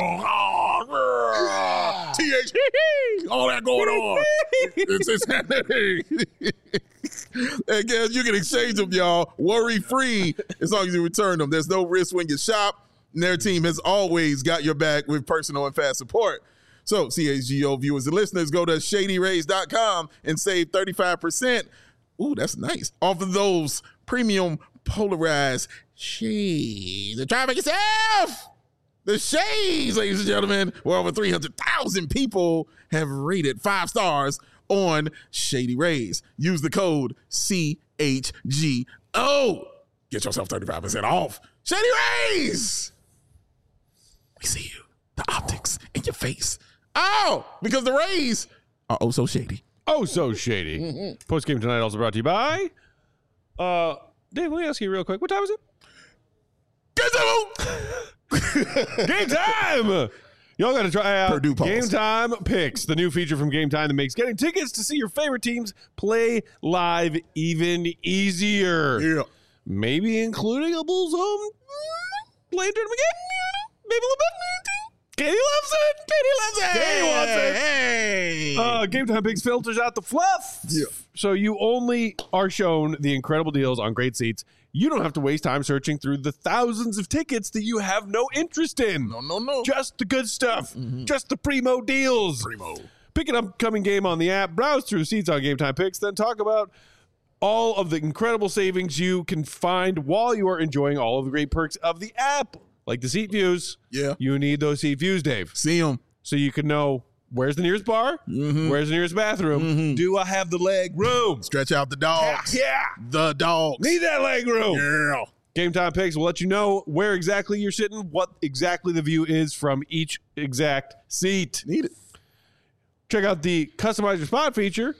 TH, all that going on. It's insanity. And guess you can exchange them, y'all, worry-free as long as you return them. There's no risk when you shop. And their team has always got your back with personal and fast support. So CHGO viewers and listeners, go to ShadyRays.com and save 35%. Ooh, that's nice. Off of those premium polarized shades. And try to make yourself the shades, ladies and gentlemen, where over 300,000 people have rated 5 stars on Shady Rays. Use the code CHGO. Get yourself 35% off. Shady Rays. We see you. The optics in your face. Oh, because the Rays are oh so shady. Oh, so shady. Mm-hmm. Post game tonight also brought to you by. Dave, let me ask you real quick. What time is it? Game time! Y'all got to try out Purdue Pulse. Game Time Picks, the new feature from Game Time that makes getting tickets to see your favorite teams play live even easier. Yeah. Maybe including a Bulls home play tournament game. Maybe a little bit. Katie loves it. Katie wants it. Hey. Game Time Picks filters out the fluff. Yeah. So you only are shown the incredible deals on great seats. You don't have to waste time searching through the thousands of tickets that you have no interest in. No. Just the good stuff. Just the primo deals. Pick an upcoming game on the app, browse through seats on Game Time Picks, then talk about all of the incredible savings you can find while you are enjoying all of the great perks of the app, like the seat views. Yeah. You need those seat views, Dave. See them. So you can know where's the nearest bar, where's the nearest bathroom. Do I have the leg room? Stretch out the dogs. Yeah. The dogs. Need that leg room. Yeah. Game Time Picks will let you know where exactly you're sitting, what exactly the view is from each exact seat. Need it. Check out the Customize Your Spot feature.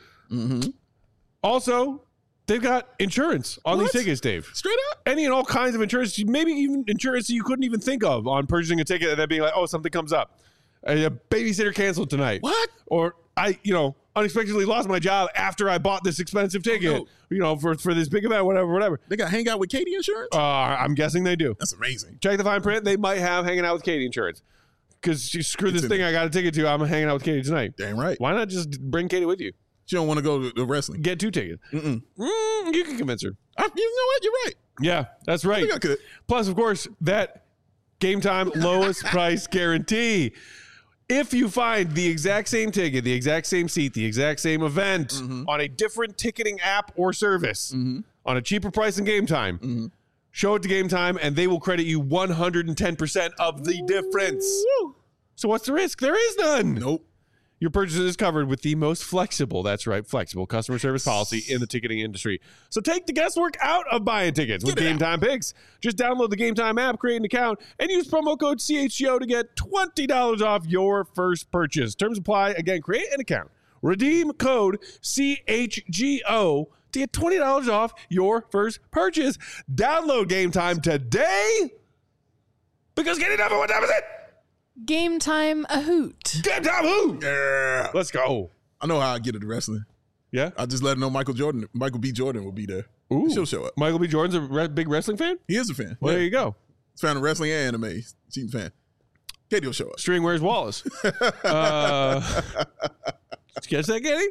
Also, they've got insurance on these tickets, Dave. Straight up. Any and all kinds of insurance, maybe even insurance that you couldn't even think of on purchasing a ticket and then being like, oh, something comes up. A babysitter canceled tonight. What? Or I, unexpectedly lost my job after I bought this expensive ticket, for this big event, whatever. They got hang out with Katie insurance? I'm guessing they do. That's amazing. Check the fine print. They might have hanging out with Katie insurance. Because screw this thing I got a ticket to. I'm hanging out with Katie tonight. Damn right. Why not just bring Katie with you? She don't want to go to the wrestling. Get 2 tickets. You can convince her. You know what? You're right. Yeah, that's right. I think I could. Plus, of course, that Game Time lowest price guarantee. If you find the exact same ticket, the exact same seat, the exact same event on a different ticketing app or service on a cheaper price than Game Time, show it to Game Time and they will credit you 110% of the difference. So what's the risk? There is none. Nope. Your purchase is covered with the most flexible, that's right, flexible customer service policy in the ticketing industry. So take the guesswork out of buying tickets with Game Time Picks. Just download the Game Time app, create an account, and use promo code CHGO to get $20 off your first purchase. Terms apply. Again, create an account. Redeem code CHGO to get $20 off your first purchase. Download Game Time today because getting number one time is it. Game Time a hoot. Game Time hoot. Yeah. Let's go. I know how I get into wrestling. Yeah? I just let her know Michael B. Jordan will be there. Ooh. She'll show up. Michael B. Jordan's a big wrestling fan? He is a fan. Well, there you go. He's fan of wrestling and anime. She's a fan. Katie will show up. String Where's Wallace? Did you catch that, Katie?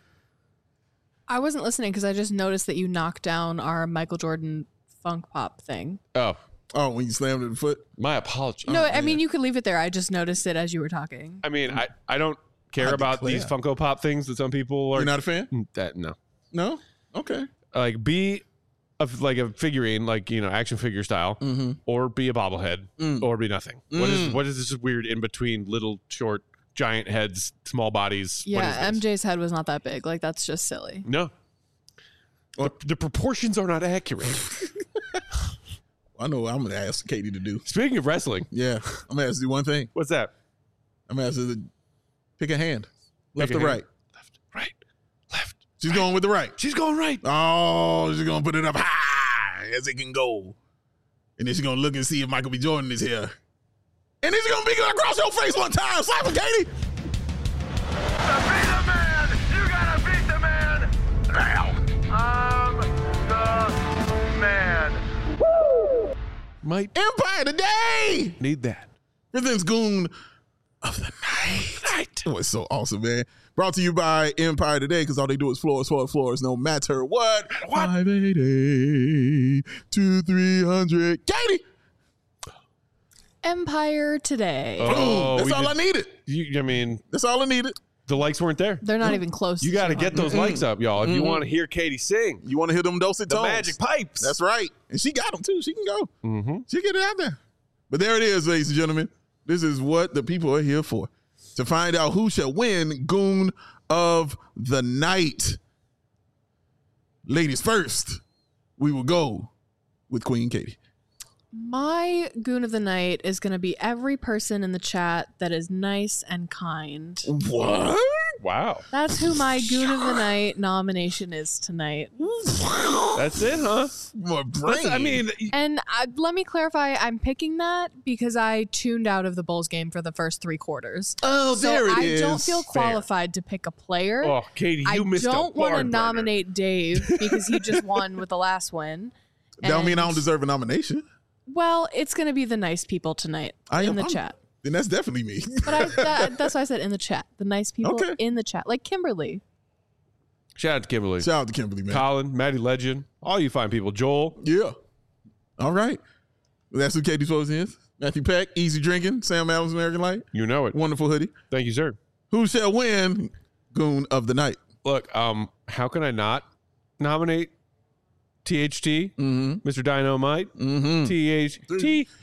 I wasn't listening because I just noticed that you knocked down our Michael Jordan funk pop thing. Oh, when you slammed it in the foot? My apologies. No, I mean, you could leave it there. I just noticed it as you were talking. I mean, I don't care about these Funko Pop things that some people are. You're not a fan? No. No? Okay. Like, be a figurine, action figure style, or be a bobblehead, or be nothing. What is this weird in between little, short, giant heads, small bodies? Yeah, MJ's head was not that big. Like, that's just silly. No. The proportions are not accurate. I know what I'm going to ask Katie to do. Speaking of wrestling. Yeah. I'm going to ask her to do one thing. What's that? I'm going to ask her to pick a hand. Left or hand. right? Left, right, left. She's going with the right. She's going right. Oh, she's going to put it up high as it can go. And then she's going to look and see if Michael B. Jordan is here. And then she's going to be across your face one time. Slap him, Katie. To be the man, you got to beat the man. Now, I'm the man. Might Empire today. need that. Presents Goon of the Night. Oh, it's so awesome, man. Brought to you by Empire Today, because all they do is floors, no matter what. 580 to 300. Katie! Empire Today. Oh, that's all I needed. That's all I needed. The likes weren't there. They're not even close. You got to get those likes up, y'all. If you want to hear Katie sing, You want to hear them dulcet the tones? magic pipes. That's right. And she got them, too. She can go. Mm-hmm. She get it out there. But there it is, ladies and gentlemen. This is what the people are here for. To find out who shall win Goon of the Night. Ladies first, we will go with Queen Katie. My Goon of the Night is going to be every person in the chat that is nice and kind. What? Wow. That's who my Goon of the Night nomination is tonight. That's it, huh? My brain. And let me clarify, I'm picking that because I tuned out of the Bulls game for the first 3 quarters. Oh, so there it is. I don't feel qualified to pick a player. Oh, Katie, you missed a I don't want to barn burner. nominate Dave because he just won with the last win. That don't mean I don't deserve a nomination. Well, it's going to be the nice people tonight in the chat. Then that's definitely me. But that's why I said in the chat. The nice people in the chat. Like Kimberly. Shout out to Kimberly. Shout out to Kimberly, man. Colin, Maddie Legend, all you fine people. Joel. Yeah. All right. Well, that's who Katie's supposed is. Matthew Peck, Easy Drinking, Sam Adams, American Light. You know it. Wonderful hoodie. Thank you, sir. Who shall win Goon of the Night? Look, how can I not nominate THT, Mr. Dynamite, THT.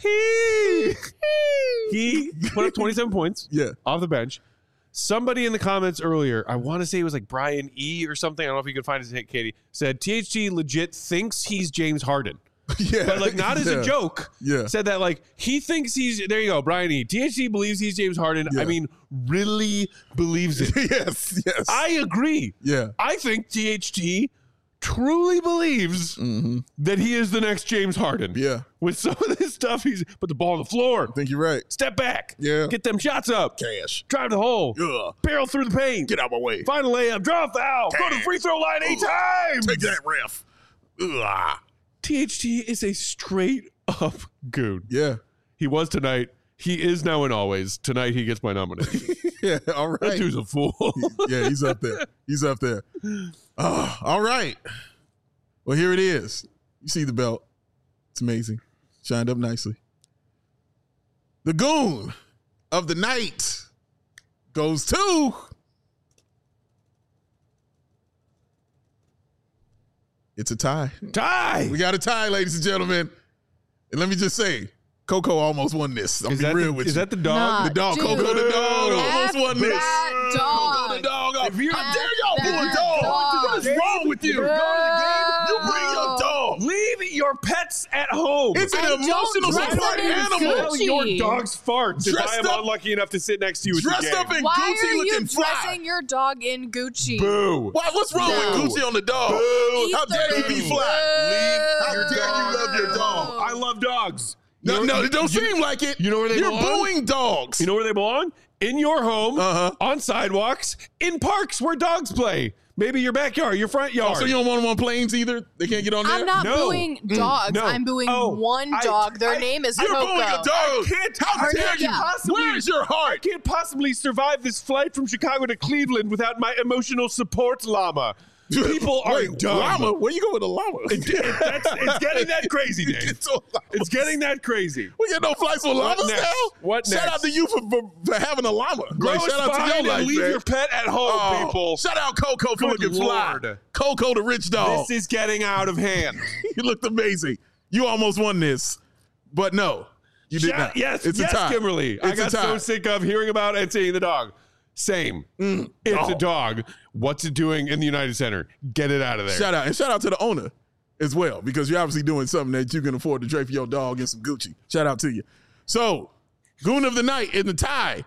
He put up 27 points off the bench. Somebody in the comments earlier, I want to say it was like Brian E. or something. I don't know if you could find his hit, Katie, said THT legit thinks he's James Harden. But like not as a joke. Said that like he thinks he's, there you go, Brian E. THT believes he's James Harden. I mean, really believes it. Yes. I agree. I think THT truly believes that he is the next James Harden. With some of this stuff, he's put the ball on the floor. I think you're right. Step back. Yeah. Get them shots up. Cash. Drive the hole. Barrel through the paint. Get out my way. Final layup. Draw a foul. Go to the free throw line 8 times. Take that, ref. THT is a straight up goon. Yeah. He was tonight. He is now and always. Tonight he gets my nomination. All right. That dude's a fool. He's up there. Oh, all right. Well, here it is. You see the belt. It's amazing. Shined up nicely. The goon of the night goes to... It's a tie. We got a tie, ladies and gentlemen. And let me just say, Coco almost won this. I'm being real with you. Is that the dog? The dog. Coco the dog almost won this. Coco the dog. How dare y'all pull a dog? What is wrong with you? Go to the game. You bring your dog. Leave your pets at home. It's an emotional support animal. Smell your dog's farts if I am up- unlucky enough to sit next to you at the game. Dressed up in Why Gucci are you looking fly. dressing your dog in Gucci? Boo. What's wrong with Gucci on the dog? How dare you be fly? How dare you love your dog? I love dogs. No, it don't seem like it. You know where they You're belong? booing dogs. You know where they belong? In your home, on sidewalks, in parks where dogs play. Maybe your backyard, your front yard. So you don't want them on planes either? They can't get on there? I'm not No. booing dogs. No. I'm booing one I- dog. Their I- name is You're Coco. booing a dog. How dare you? Where's your I heart? can't possibly survive this flight from Chicago to Cleveland without my emotional support llama. People are Wait, dumb. llama? Where you going with a llama? It's getting that crazy, Dave. It's getting that crazy. We get no flights with llamas next? now? What Shout next? out to you for having a llama. Grow Like, a shout out to spine your and life, leave man. your pet at home, people. Shout out Coco for Good looking fly. Lord. Coco the rich dog. This is getting out of hand. You looked amazing. You almost won this, but no, you did not. Yes, it's yes, a tie. Kimberly. I It's got a tie. so sick of hearing about and seeing the dog. Same. It's a dog. What's it doing in the United Center? Get it out of there. Shout out to the owner as well, because you're obviously doing something that you can afford to drape your dog in some Gucci. Shout out to you. So, Goon of the Night in the tie.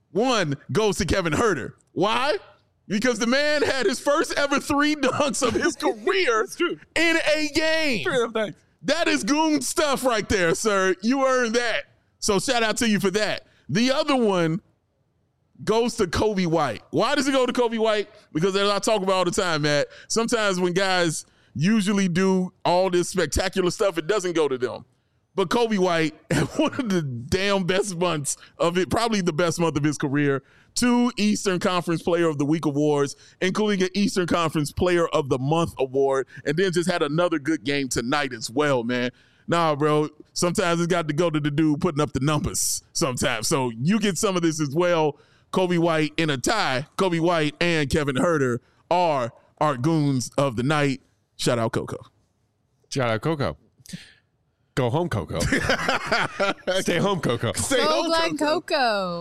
One goes to Kevin Huerter. Why? Because the man had his first ever 3 dunks of his career in a game. That is Goon stuff right there, sir. You earned that. So shout out to you for that. The other one goes to Kobe White. Why does it go to Kobe White? Because as I talk about all the time, Matt, sometimes when guys usually do all this spectacular stuff, it doesn't go to them. But Kobe White had one of the damn best months of it, probably the best month of his career. 2 Eastern Conference Player of the Week awards, including an Eastern Conference Player of the Month award, and then just had another good game tonight as well, man. Nah, bro, sometimes it's got to go to the dude putting up the numbers sometimes. So you get some of this as well. Kobe White in a tie. Kobe White and Kevin Huerter are our goons of the night. Shout out Coco. Shout out Coco. Go home, Coco. Stay home, Coco. Stay Go home, Glen Coco.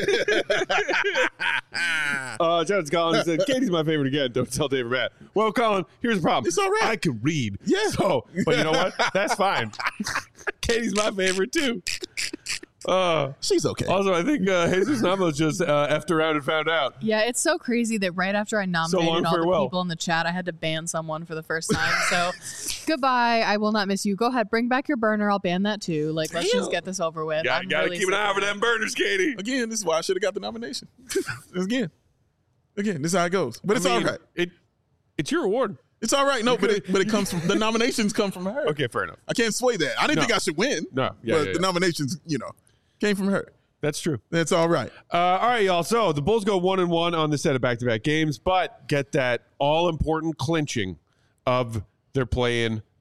Jones Collins said, Katie's my favorite again. Don't tell Dave or Matt. Well, Colin, here's the problem. It's all right. I can read. Yeah. So, but you know what? That's fine. Katie's my favorite too. She's okay. Also, I think Jesus Namos just effed around and found out. Yeah, it's so crazy that right after I nominated long, all farewell. the people in the chat, I had to ban someone for the first time. So goodbye. I will not miss you. Go ahead. Bring back your burner. I'll ban that too. Like, let's just get this over with. Gotta really keep an sick eye of over it. them burners, Katie. Again, this is why I should have got the nomination. Again, this is how it goes. But it's all right. It's your award. It's all right. No, but it comes from the nominations come from her. Okay, fair enough. I can't sway that. I didn't No. think I should win. No, yeah, but yeah, the yeah. nominations, came from her. That's true. That's all right. All right, y'all. So the Bulls go 1-1 on the set of back-to-back games, but get that all-important clinching of their play-in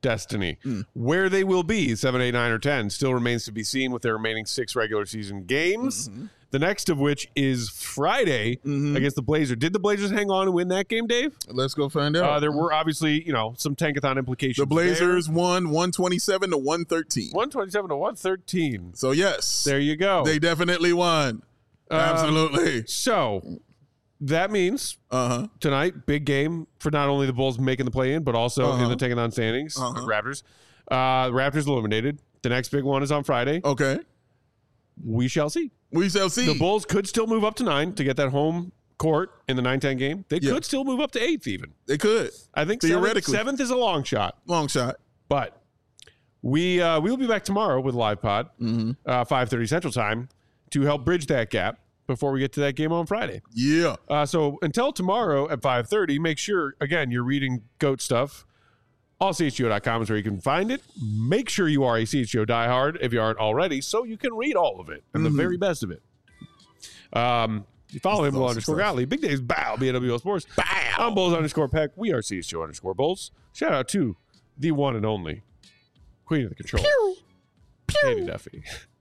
destiny. Where they will be, 7, 8, 9, or 10, still remains to be seen with their remaining 6 regular season games. The next of which is Friday against the Blazers. Did the Blazers hang on and win that game, Dave? Let's go find out. There were obviously, some tankathon implications. The Blazers won 127 to 113. 127 to 113. So yes, There you go. they definitely won. Absolutely. So that means tonight, big game for not only the Bulls making the play-in, but also in the tankathon standings. Raptors. Raptors eliminated. The next big one is on Friday. Okay, We shall see. we shall see. The Bulls could still move up to 9 to get that home court in the 9-10 game. They could still move up to 8th even. They could. I think Theoretically. 7th is a long shot. Long shot. But we will be back tomorrow with Live Pod, 5:30 Central Time, to help bridge that gap before we get to that game on Friday. Yeah. So until tomorrow at 5:30, make sure, again, you're reading GOAT stuff. AllCHGO.com is where you can find it. Make sure you are a CHGO diehard if you aren't already, so you can read all of it and the very best of it. You follow him, Bull_Gottlieb. Big Dave's Bow, BWO Sports. Bow. I'm Bulls_Peck. We are CHGO_Bulls. Shout out to the one and only Queen of the Control, Katie Duffy.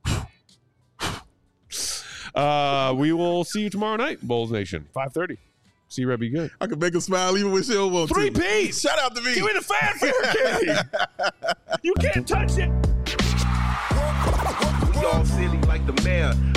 We will see you tomorrow night, Bulls Nation, 5:30. See Red be good. I can make him smile even when she don't want to. 3-piece. Shout out to me. Give me the fanfare, Katie. You can't touch it. We all silly like the mayor.